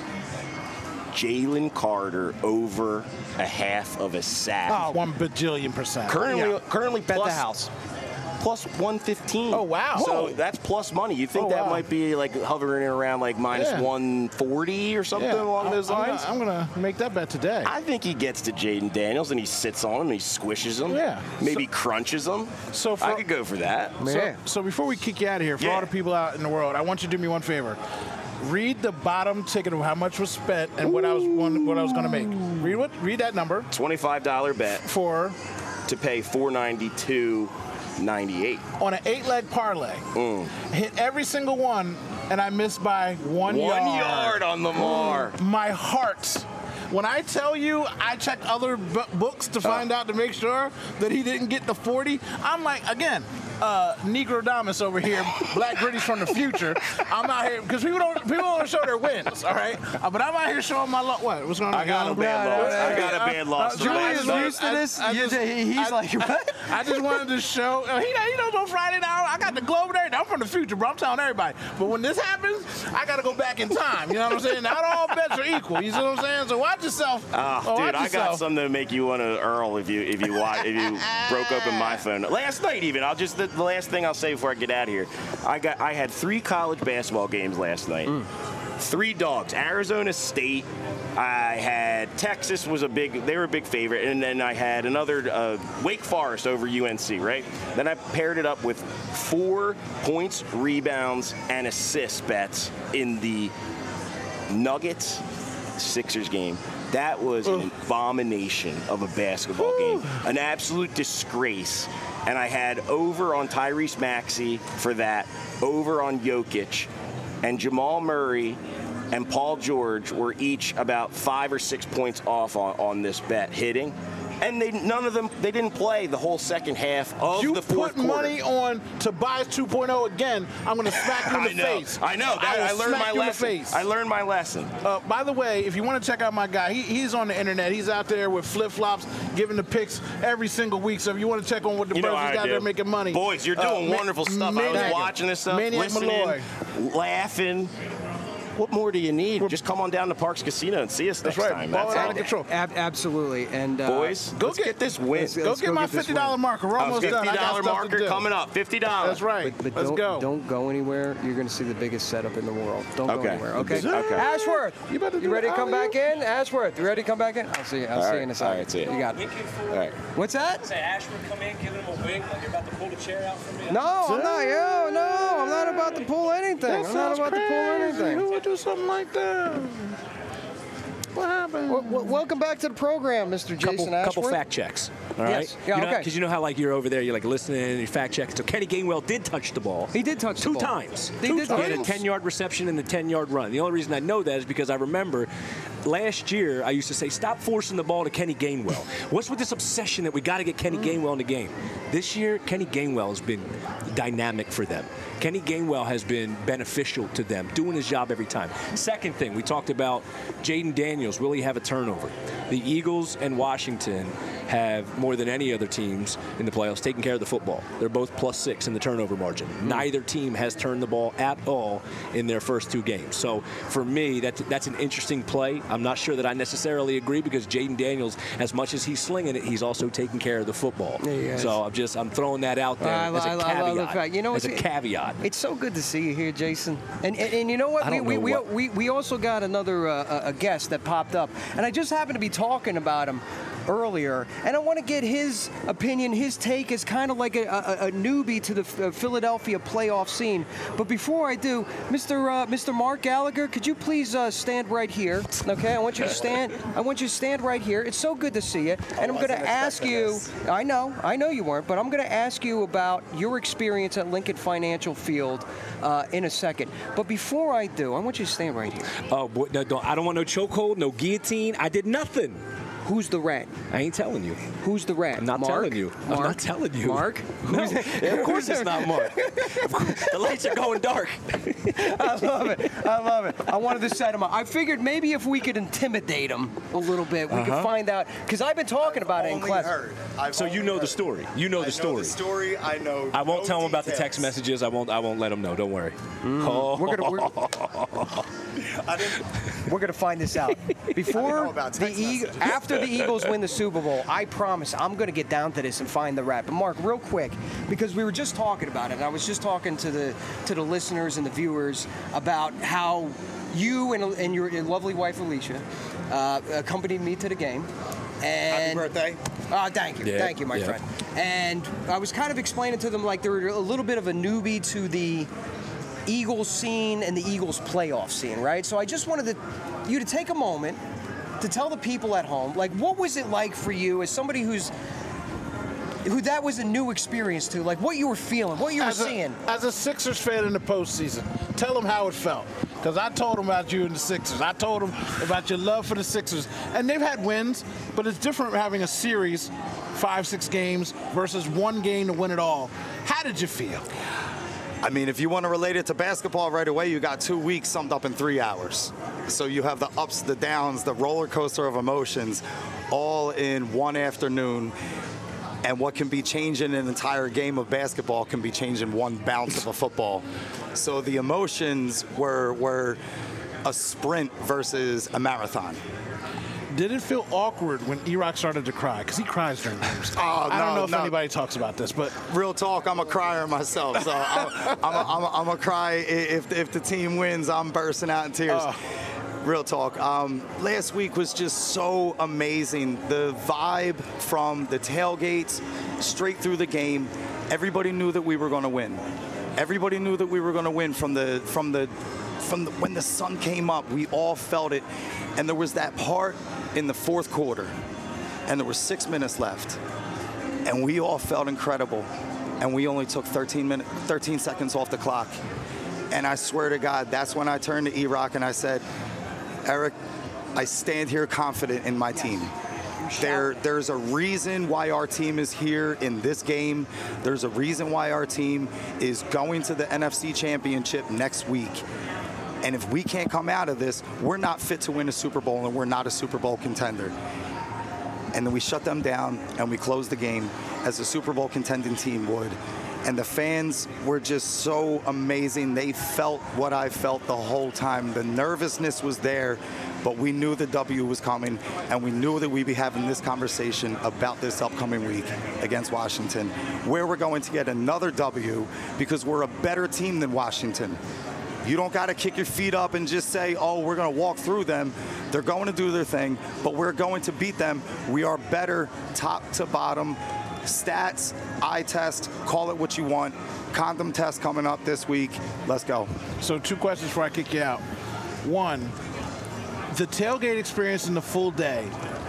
Jalen Carter over a half of a sack. Oh, one bajillion percent. Currently, Yeah. currently Bet plus, the house. plus one fifteen. Oh, wow. So Whoa. that's plus money. You think Oh, that wow. might be like hovering around like minus Yeah. one forty or something Yeah. along those I'm lines? Gonna, I'm going to make that bet today. I think he gets to Jaden Daniels and he sits on him and he squishes him. Yeah. Maybe So- crunches him. So for- I could go for that. So, so before we kick you out of here, for Yeah. all the people out in the world, I want you to do me one favor. Read the bottom ticket of how much was spent and what I was one, what I was going to make. Read what? Read that number twenty-five dollar bet for to pay four ninety-two ninety-eight. on an eight-leg parlay. Mm. Hit every single one, and I missed by one, One yard. yard on Lamar. My heart. When I tell you I checked other b- books to find out to make sure that he didn't get the forty, I'm like, again, uh, Negrodamus over here, Black British from the future. I'm out here because people don't people don't show their wins, all right? Uh, but I'm out here showing my luck. What? What's going on? I got a bad No, no, loss. no, I no, got a no. bad loss. Uh, to Julius last used night. to this. I You just- just- he's I- like, what? I just wanted to show. Uh, he, he knows on Friday now. I got the globe and everything. I'm from the future, bro. I'm telling everybody. But when this happens, I got to go back in time. You know what I'm saying? Not all bets are equal. You see what I'm saying? So watch yourself. Ah, Oh, dude, watch I got yourself. something to make you want to Earl if you if you watch if you broke open my phone last night. Even I'll just the, the last thing I'll say before I get out of here. I got I had three college basketball games last night. Mm. Three dogs. Arizona State. I had Texas was a big. They were a big favorite, and then I had another uh, Wake Forest over U N C. Right. Then I paired it up with four points, rebounds, and assist bets in the Nuggets Sixers game. That was an abomination of a basketball game. An absolute disgrace. And I had over on Tyrese Maxey for that, over on Jokic, and Jamal Murray and Paul George were each about five or six points off on, on this bet hitting. And they none of them they didn't play the whole second half of You the fourth put quarter. money on Tobias two point oh again, I'm going to smack you in the I know. face. I know. That, will I, learned smack my you in the lesson. face. I learned my lesson. Uh, by the way, if you want to check out my guy, he, he's on the internet. He's out there with flip-flops, giving the picks every single week. So if you want to check on what the You know birds how he's I out do. there making money. Boys, you're Uh, doing Ma- wonderful stuff. I was Maniac- watching this stuff, Maniac listening, Malloy. laughing. What more do you need? Just come on down to Parks Casino and see us next That's right. time. Ball That's it out all. of control. Ab- absolutely. And uh, Boys, Go let's get- get, this win. let's- Go let's get go my get this fifty dollar win. marker. We're Oh, almost done. I fifty got dollar stuff to marker do. coming up. fifty dollars. That's right. But, but Let's don't, go. don't go anywhere. You're going to see the biggest setup in the world. Don't go Okay. anywhere. Okay. Okay. Ashworth, You about to you do ready the to come alley-oop? back in? Ashworth, you ready to come back in? I'll see you. I'll All see right. you in a second. All right, see ya. You got it. All right. What's that? Say Ashford come in, giving him a wing like you're about to pull the chair out from me. No, I'm not. Yo, no, I'm not about to pull anything. That I'm not sounds about crazy. to pull anything. Who would do something like that? What happened? Well, well, welcome back to the program, Mister Couple, Jason couple Ashworth. fact checks. All right. Yes. Yeah, you know, okay. Because you know how like you're over there, you're like listening and you fact check. So Kenny Gainwell did touch the ball. He did touch the two ball. times. He two did times. touch He had a it. ten-yard reception and a ten-yard run. The only reason I know that is because I remember last year I used to say, stop forcing the ball to Kenny Gainwell. What's with this obsession that we got to get Kenny Gainwell in the game? This year, Kenny Gainwell has been dynamic for them. Kenny Gainwell has been beneficial to them, doing his job every time. Second thing, we talked about Jaden Daniels. Will he have a turnover? The Eagles and Washington have, more than any other teams in the playoffs, taken care of the football. They're both plus six in the turnover margin. Mm. Neither team has turned the ball at all in their first two games. So for me, that's, that's an interesting play. I'm not sure that I necessarily agree because Jaden Daniels, as much as he's slinging it, he's also taking care of the football. Yeah, he is. So I'm just I'm throwing that out there I, as a I, I caveat. love the fact. You know, as a it's- caveat. It's so good to see you here, Jason. And and, and you know what? I don't we, know we, what- we we also got another uh, a guest that popped up, and I just happened to be talking about him earlier, and I want to get his opinion, his take as kind of like a, a, a newbie to the F- Philadelphia playoff scene. But before I do, Mister Uh, Mister Mark Gallagher, could you please uh, stand right here? Okay, I want you to stand. I want you to stand right here. It's so good to see you, and I'm going to ask you. I know, I know you weren't, but I'm going to ask you about your experience at Lincoln Financial Field uh, in a second. But before I do, I want you to stand right here. Oh, boy, no, don't, I don't want no chokehold, no guillotine. I did nothing. Who's the rat? I ain't telling you. Who's the rat? I'm not Mark? telling you. Mark? I'm not telling you. Mark? No, of course it's not Mark. The lights are going dark. I love it. I love it. I wanted to set him up. I figured maybe if we could intimidate him a little bit, we Uh-huh. could find out. Because I've been talking about it in Only class. heard. I've So you only know the heard. story. You know the I story. Know the story. I know. I won't no tell him about the details. text messages. I won't. I won't let him know. Don't worry. Oh. We're gonna we're, I didn't. we're gonna find this out before know about the text e- messages. after the Eagles win the Super Bowl. I promise I'm gonna get down to this and find the rat. But Mark, real quick, because we were just talking about it. And I was just talking to the to the listeners and the viewers about how you and, and your, your lovely wife Alicia uh, accompanied me to the game. And Happy birthday. Oh, thank you. Yeah, Thank you, my yeah. friend. And I was kind of explaining to them like they were a little bit of a newbie to the Eagles scene and the Eagles playoff scene, right? So I just wanted to, you to take a moment to tell the people at home, like, what was it like for you as somebody who's who that was a new experience to, like what you were feeling, what you were As a, seeing. as a Sixers fan in the postseason, tell them how it felt. Because I told them about you and the Sixers. I told them about your love for the Sixers. And they've had wins, but it's different having a series, five, six games, versus one game to win it all. How did you feel? I mean, if you want to relate it to basketball right away, you got two weeks summed up in three hours. So you have the ups, the downs, the roller coaster of emotions, all in one afternoon. And what can be changed in an entire game of basketball can be changed in one bounce of a football. So the emotions were were a sprint versus a marathon. Did it feel awkward when E-Rock started to cry? Because he cries during games. Oh, I don't no, know if no. anybody talks about this, but Real talk, I'm a crier myself, so I'm, I'm, a, I'm, a, I'm a cry. If, if the team wins, I'm bursting out in tears. Oh. Real talk. Um, last week was just so amazing. The vibe from the tailgates straight through the game. Everybody knew that we were going to win. Everybody knew that we were going to win from the from the from the, when the sun came up. We all felt it, and there was that part in the fourth quarter, and there were six minutes left, and we all felt incredible, and we only took thirteen minutes, thirteen seconds off the clock, and I swear to God, that's when I turned to E-Rock and I said, Eric, I stand here confident in my team. There, there's a reason why our team is here in this game. There's a reason why our team is going to the N F C Championship next week. And if we can't come out of this, we're not fit to win a Super Bowl, and we're not a Super Bowl contender. And then we shut them down, and we closed the game as a Super Bowl contending team would. And the fans were just so amazing. They felt what I felt the whole time. The nervousness was there, but we knew the W was coming, and we knew that we'd be having this conversation about this upcoming week against Washington, where we're going to get another W because we're a better team than Washington. You don't got to kick your feet up and just say, oh, we're going to walk through them. They're going to do their thing, but we're going to beat them. We are better top to bottom. Stats, eye test, call it what you want. Condom test coming up this week. Let's go. so two questions before I kick you out. One, the tailgate experience in the full day.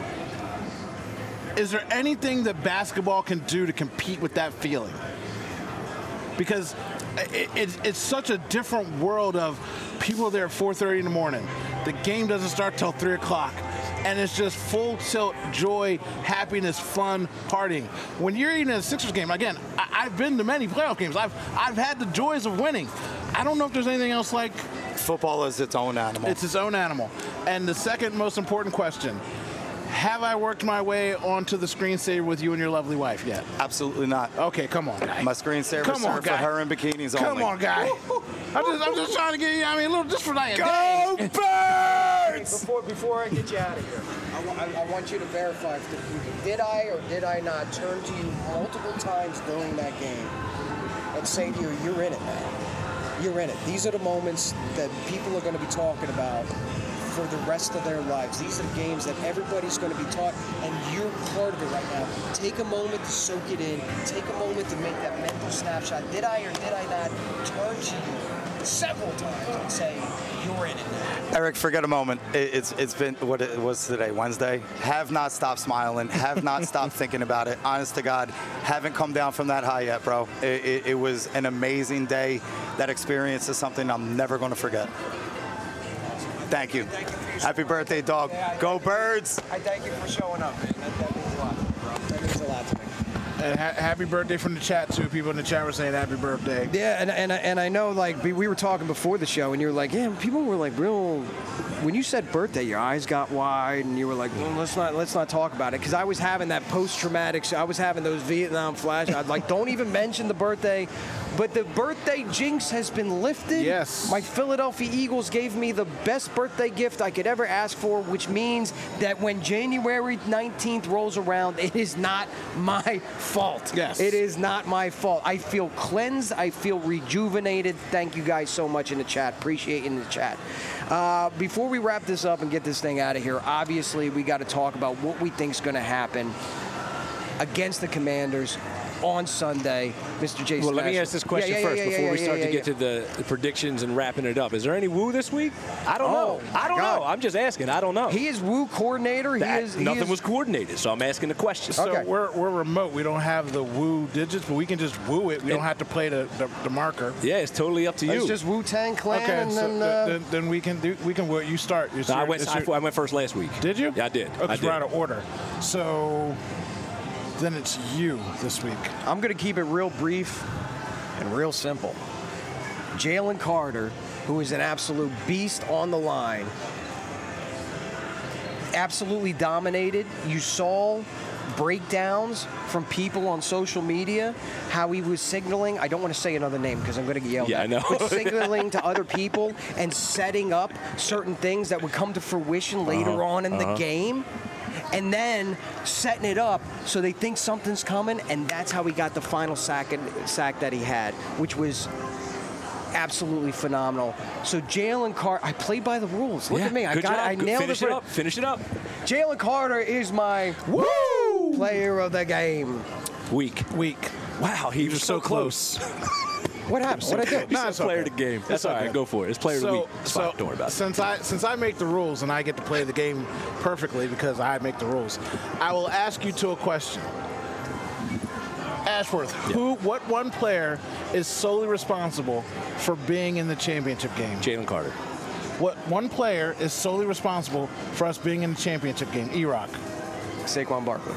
Is there anything that basketball can do to compete with that feeling? Because it, it, it's such a different world of people there at four thirty in the morning. The game doesn't start till three o'clock. And it's just full tilt, joy, happiness, fun, partying. When you're eating a Sixers game, again, I, I've been to many playoff games. I've I've had the joys of winning. I don't know if there's anything else like Football is its own animal. it's its own animal. And the second most important question, have I worked my way onto the screensaver with you and your lovely wife yet? Absolutely not. Okay, come on, guy. My screensaver Come on, served for guy. her in bikinis Come only. on, guy. I'm just, I'm just trying to get you, I mean, a little, just for like a Go day. Birds! Before, before I get you out of here, I, wa- I, I want you to verify, if the, did I or did I not turn to you multiple times during that game and say to you, you're in it, man. You're in it. These are the moments that people are going to be talking about for the rest of their lives. These are the games that everybody's going to be taught, and you're part of it right now. Take a moment to soak it in. Take a moment to make that mental snapshot. Did I or did I not turn to you several times and say, you're in it now? Eric, forget a moment. It, it's it's been what it was today, Wednesday. Have not stopped smiling. Have not stopped thinking about it. Honest to God, haven't come down from that high yet, bro. It, it, it was an amazing day. That experience is something I'm never going to forget. Thank you. Thank you for your Happy support. birthday, dog. Yeah, I- Go Birds. I thank you for showing up, man. That, that means a lot, bro. That means a lot to me. And ha- happy birthday from the chat, too. People in the chat were saying happy birthday. Yeah, and and I- and I know, like, we we were talking before the show, and you were like, yeah, people were like, real. When you said birthday, your eyes got wide, and you were like, well, let's not let's not talk about it, because I was having that post-traumatic. I was having those Vietnam flashbacks. I'd like, don't even mention the birthday. But the birthday jinx has been lifted. Yes. My Philadelphia Eagles gave me the best birthday gift I could ever ask for, which means that when January nineteenth rolls around, it is not my fault. Yes. It is not my fault. I feel cleansed. I feel rejuvenated. Thank you guys so much in the chat. Appreciate it in the chat. Uh, before we wrap this up and get this thing out of here, obviously we got to talk about what we think is going to happen against the Commanders on Sunday, Mister Jason. Well, let me Nash. ask this question Yeah, yeah, first yeah, yeah, before yeah, we start yeah, to get yeah. to the, the predictions and wrapping it up. Is there any Woo this week? I don't Oh, know. my I don't God. know. I'm just asking. I don't know. He is Woo coordinator. He That- is he nothing is, was coordinated, so I'm asking the question. So Okay. we're, we're remote. We don't have the woo digits, but we can just woo it. We don't have to play the, the, the marker. Yeah, it's totally up to you. It's just Wu Tang Clan, Okay, and so then. th- Uh, then, then we can do we can woo it. You start. It's No, I your- went. it's I, your- I went first last week. Did you? Yeah, I did. Oh, I 'cause did. we're out of order. So then it's you this week. I'm going to keep it real brief and real simple. Jalen Carter, who is an absolute beast on the line, absolutely dominated. You saw breakdowns from people on social media, how he was signaling. I don't want to say another name because I'm going to get yelled Yeah, at. I know. But signaling to other people and setting up certain things that would come to fruition later Uh-huh, on in uh-huh. the game. And then setting it up so they think something's coming, and that's how he got the final sack, sack that he had, which was absolutely phenomenal. So Jalen Carter, I played by the rules. Look Yeah, at me, I good got job. it. I Good- nailed Finish it. it for- up. Finish it up. Jalen Carter is my woo player of the game. Week. Week. Wow, he was so close. What happened? What I do? He No, said it's player okay. of the game. That's It's all right. okay. Go for it. It's player of the So, week. It's so fine. Don't worry about it. since I since I make the rules and I get to play the game perfectly because I make the rules, I will ask you to a question. Ashworth, who, what one player is solely responsible for being in the championship game? Jalen Carter. What one player is solely responsible for us being in the championship game? E-Rock. Saquon Barkley.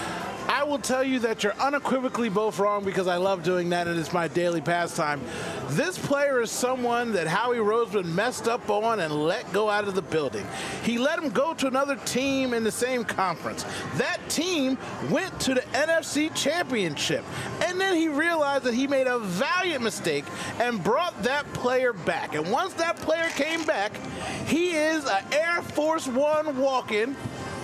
I will tell you that you're unequivocally both wrong because I love doing that and it's my daily pastime. This player is someone that Howie Roseman messed up on and let go out of the building. He let him go to another team in the same conference. That team went to the N F C Championship. And then he realized that he made a valiant mistake and brought that player back. And once that player came back, he is an Air Force One walking,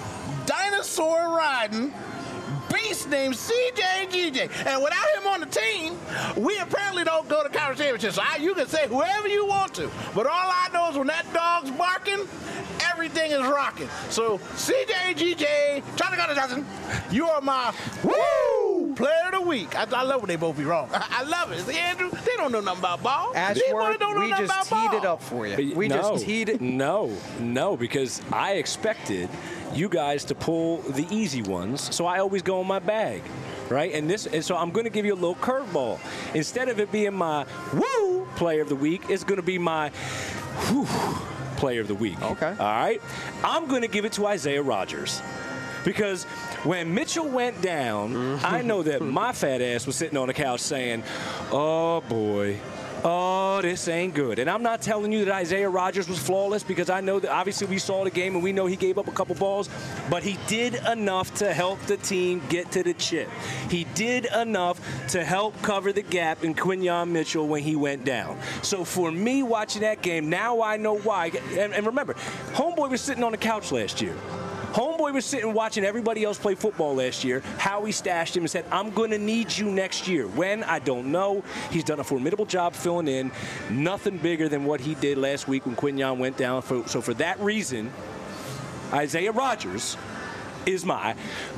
dinosaur riding, beast named C J G J. And without him on the team, we apparently don't go to conference championship. So I, you can say whoever you want to. But all I know is when that dog's barking, everything is rocking. So C J G J, Charlie Gunner Johnson, you are my woo player of the week. I, I love when they both be wrong. I, I love it. See, Andrew, they don't know nothing about ball. These boys Ashworth, don't know we nothing just about teed it ball. up for you. We no, just teed it. No, no, because I expected you guys to pull the easy ones, so I always go in my bag, right? And this, and so I'm going to give you a little curveball. Instead of it being my woo player of the week, it's going to be my whew player of the week. Okay. All right. I'm going to give it to Isaiah Rodgers. Because when Mitchell went down, I know that my fat ass was sitting on the couch saying, oh, boy. Oh, this ain't good. And I'm not telling you that Isaiah Rodgers was flawless because I know that obviously we saw the game and we know he gave up a couple balls, but he did enough to help the team get to the chip. He did enough to help cover the gap in Quinyon Mitchell when he went down. So for me watching that game, now I know why. And, and remember, Homeboy was sitting on the couch last year. Homeboy was sitting watching everybody else play football last year. Howie stashed him and said, I'm going to need you next year. When? I don't know. He's done a formidable job filling in. Nothing bigger than what he did last week when Quinyon went down. So for that reason, Isaiah Rodgers is my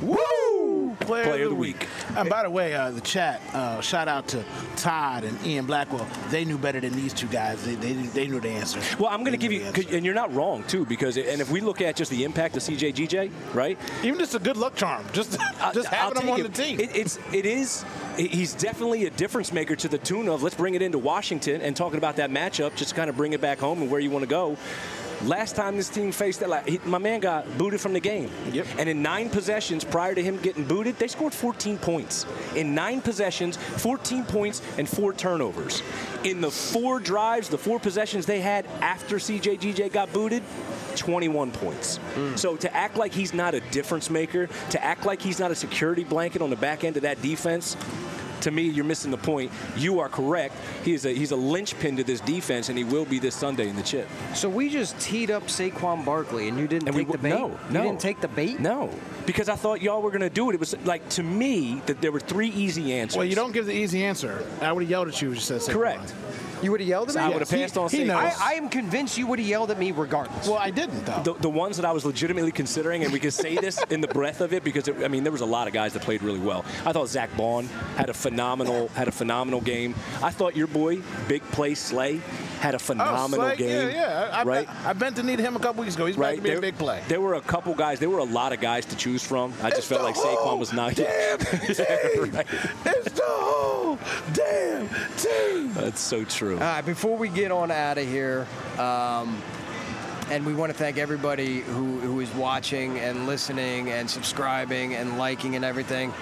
woo Player, player of the week. And by the way, uh, the chat, uh, shout out to Todd and Ian Blackwell. They knew better than these two guys. They they, they knew the answer. Well, I'm going to They give knew you, the 'cause- answer. and you're not wrong, too, because, and if we look at just the impact of C J G J, right? Even just a good luck charm. Just just I'll having him take on it. the team. It, it's it is he's definitely a difference maker to the tune of let's bring it into Washington and talking about that matchup, just kind of bring it back home and where you want to go. Last time this team faced that, like, he, my man got booted from the game. Yep. And in nine possessions prior to him getting booted, they scored fourteen points. In nine possessions, fourteen points and four turnovers. In the four drives, the four possessions they had after C J G J got booted, twenty-one points. Mm. So to act like he's not a difference maker, to act like he's not a security blanket on the back end of that defense, to me, you're missing the point. You are correct. He's a he's a linchpin to this defense, and he will be this Sunday in the chip. So we just teed up Saquon Barkley, and you didn't and take we, the bait? No, you no. didn't take the bait? No, because I thought y'all were going to do it. It was like, to me, that there were three easy answers. Well, you don't give the easy answer. I would have yelled at you if you said Saquon. Correct. You would have yelled at me? I would have passed on Saquon. I, I am convinced you would have yelled at me regardless. Well, I didn't, though. The, the ones that I was legitimately considering, and we can say this in the breadth of it, because, it, I mean, there was a lot of guys that played really well. I thought Zach Bond had a phenomenal had a phenomenal game. I thought your boy, Big Play Slay, had a phenomenal oh, Slay, game. Yeah, yeah. I, right? I, I bent the knee to him a couple weeks ago. He's right? back to be there, a big play. There were a couple guys. There were a lot of guys to choose from. I just it's felt like Saquon was not. Damn team. Right. It's the whole damn team. That's so true. All right, before we get on out of here, um, and we want to thank everybody who, who is watching and listening and subscribing and liking and everything.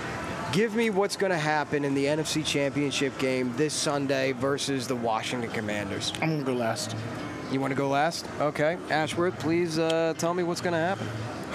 Give me what's going to happen in the N F C Championship game this Sunday versus the Washington Commanders. I'm going to go last. You want to go last? Okay. Ashworth, please uh, tell me what's going to happen.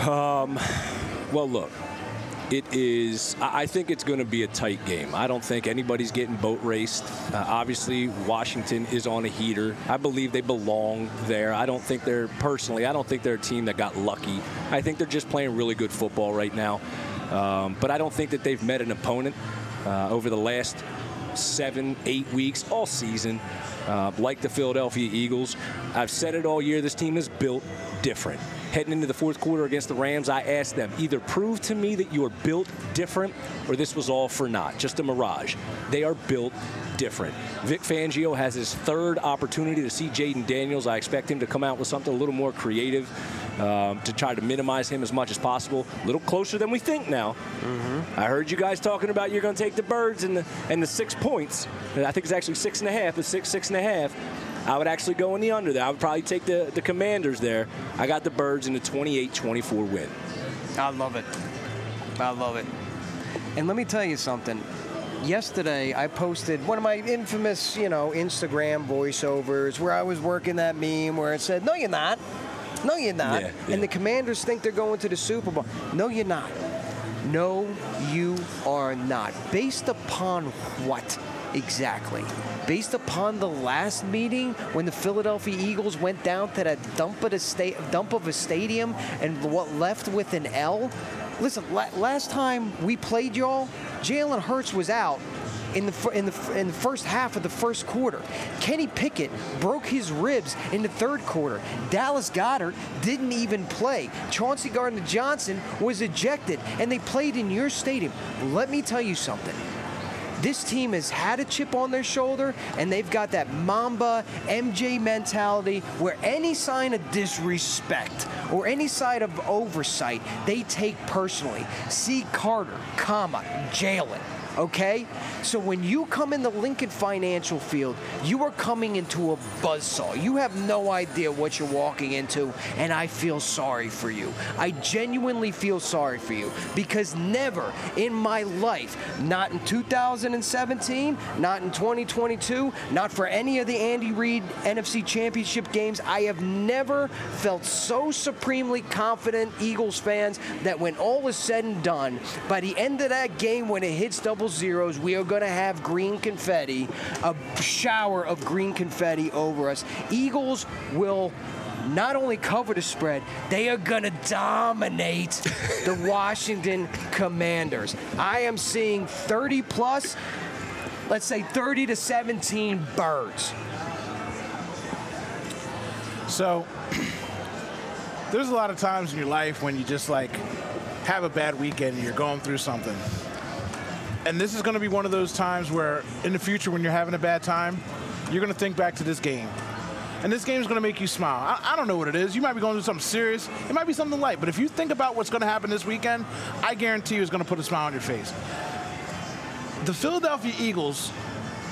Um, well, look. It is, I think it's going to be a tight game. I don't think anybody's getting boat raced. Uh, obviously, Washington is on a heater. I believe they belong there. I don't think they're, personally, I don't think they're a team that got lucky. I think they're just playing really good football right now. Um, but I don't think that they've met an opponent uh, over the last seven, eight weeks, all season, uh, like the Philadelphia Eagles. I've said it all year, this team is built different. Heading into the fourth quarter against the Rams, I asked them, either prove to me that you are built different or this was all for naught, just a mirage. They are built different. Vic Fangio has his third opportunity to see Jaden Daniels. I expect him to come out with something a little more creative um, to try to minimize him as much as possible. A little closer than we think now. Mm-hmm. I heard you guys talking about you're going to take the Birds and the, and the six points. I think it's actually six and a half, it's six, six and a half. I would actually go in the under there. I would probably take the, the Commanders there. I got the Birds in a twenty-eight twenty-four win. I love it. I love it. And let me tell you something. Yesterday, I posted one of my infamous, you know, Instagram voiceovers where I was working that meme where it said, no, you're not. No, you're not. Yeah, yeah. And the Commanders think they're going to the Super Bowl. No, you're not. No, you are not. Based upon what exactly? Based upon the last meeting when the Philadelphia Eagles went down to that dump of, the sta- dump of a stadium and what left with an L? Listen, la- last time we played y'all, Jalen Hurts was out in the fir- in the in the first half of the first quarter. Kenny Pickett broke his ribs in the third quarter. Dallas Goedert didn't even play. Chauncey Gardner-Johnson was ejected, and they played in your stadium. Let me tell you something. This team has had a chip on their shoulder, and they've got that Mamba M J mentality where any sign of disrespect or any sign of oversight, they take personally. See Carter, comma, Jalen. Okay? So when you come in the Lincoln Financial Field, you are coming into a buzzsaw. You have no idea what you're walking into, and I feel sorry for you. I genuinely feel sorry for you because never in my life, not in two thousand seventeen, not in twenty twenty-two, not for any of the Andy Reid N F C Championship games, I have never felt so supremely confident, Eagles fans, that when all is said and done, by the end of that game when it hits double zeros, we are going to have green confetti, a shower of green confetti over us. Eagles will not only cover the spread, they are going to dominate the Washington Commanders. I am seeing thirty plus, let's say thirty to seventeen Birds. So, there's a lot of times in your life when you just like have a bad weekend and you're going through something. And this is going to be one of those times where in the future when you're having a bad time, you're going to think back to this game. And this game is going to make you smile. I, I don't know what it is. You might be going through something serious. It might be something light. But if you think about what's going to happen this weekend, I guarantee you it's going to put a smile on your face. The Philadelphia Eagles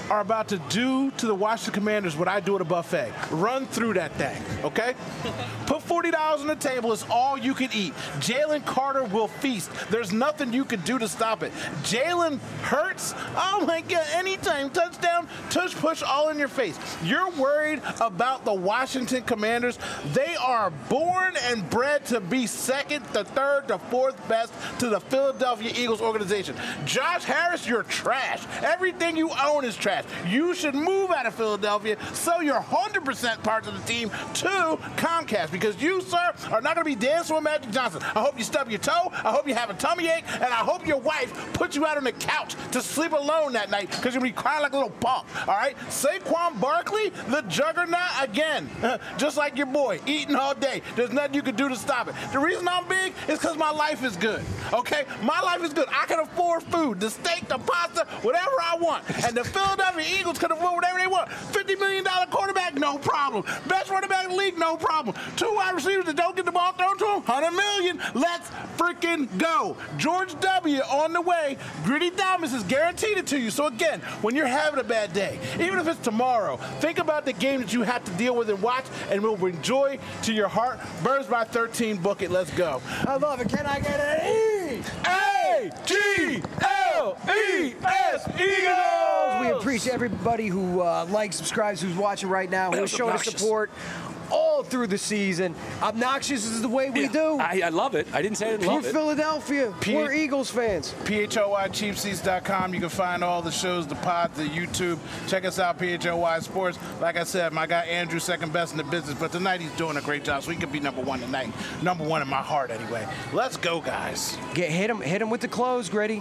are about to do to the Washington Commanders what I do at a buffet. Run through that thing, okay? Put forty dollars on the table. It's all you can eat. Jalen Carter will feast. There's nothing you can do to stop it. Jalen Hurts, oh my God, anytime. Touchdown, tush push, all in your face. You're worried about the Washington Commanders. They are born and bred to be second, the third, the fourth best to the Philadelphia Eagles organization. Josh Harris, you're trash. Everything you own is trash. You should move out of Philadelphia, sell your one hundred percent parts of the team to Comcast, because you, sir, are not going to be dancing with Magic Johnson. I hope you stub your toe. I hope you have a tummy ache, and I hope your wife puts you out on the couch to sleep alone that night because you're going to be crying like a little punk, all right? Saquon Barkley, the juggernaut again, just like your boy, eating all day. There's nothing you can do to stop it. The reason I'm big is because my life is good, okay? My life is good. I can afford food, the steak, the pasta, whatever I want. And the Philadelphia Eagles can afford whatever they want. fifty million dollars quarterback, no problem. Best running back in the league, no problem. Two wide receivers that don't get the ball thrown to them, one hundred million dollars. Let's freaking go. George W. on the way. Gritty Thomas has guaranteed it to you. So again, when you're having a bad day, even if it's tomorrow, think about the game that you have to deal with and watch, and we'll enjoy to your heart. Birds by thirteen, book it. Let's go. I love it. Can I get an E? A G L E S, Eagles! We appreciate everybody who uh, likes, subscribes, who's watching right now, who's showing us support all through the season. Obnoxious is the way we Yeah, do. I, I love it. I didn't say I didn't We're love it. Philadelphia. P- We're Eagles fans. P H O Y cheap seats dot com. You can find all the shows, the pods, the YouTube. Check us out, P H O Y Sports. Like I said, my guy Andrew, second best in the business, but tonight he's doing a great job, so he could be number one tonight. Number one in my heart, anyway. Let's go, guys. Get hit him, hit him with the clothes, Gritty.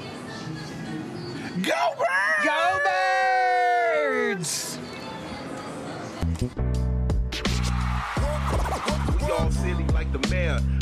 Go, Birds! Go Birds! We all silly like the mayor.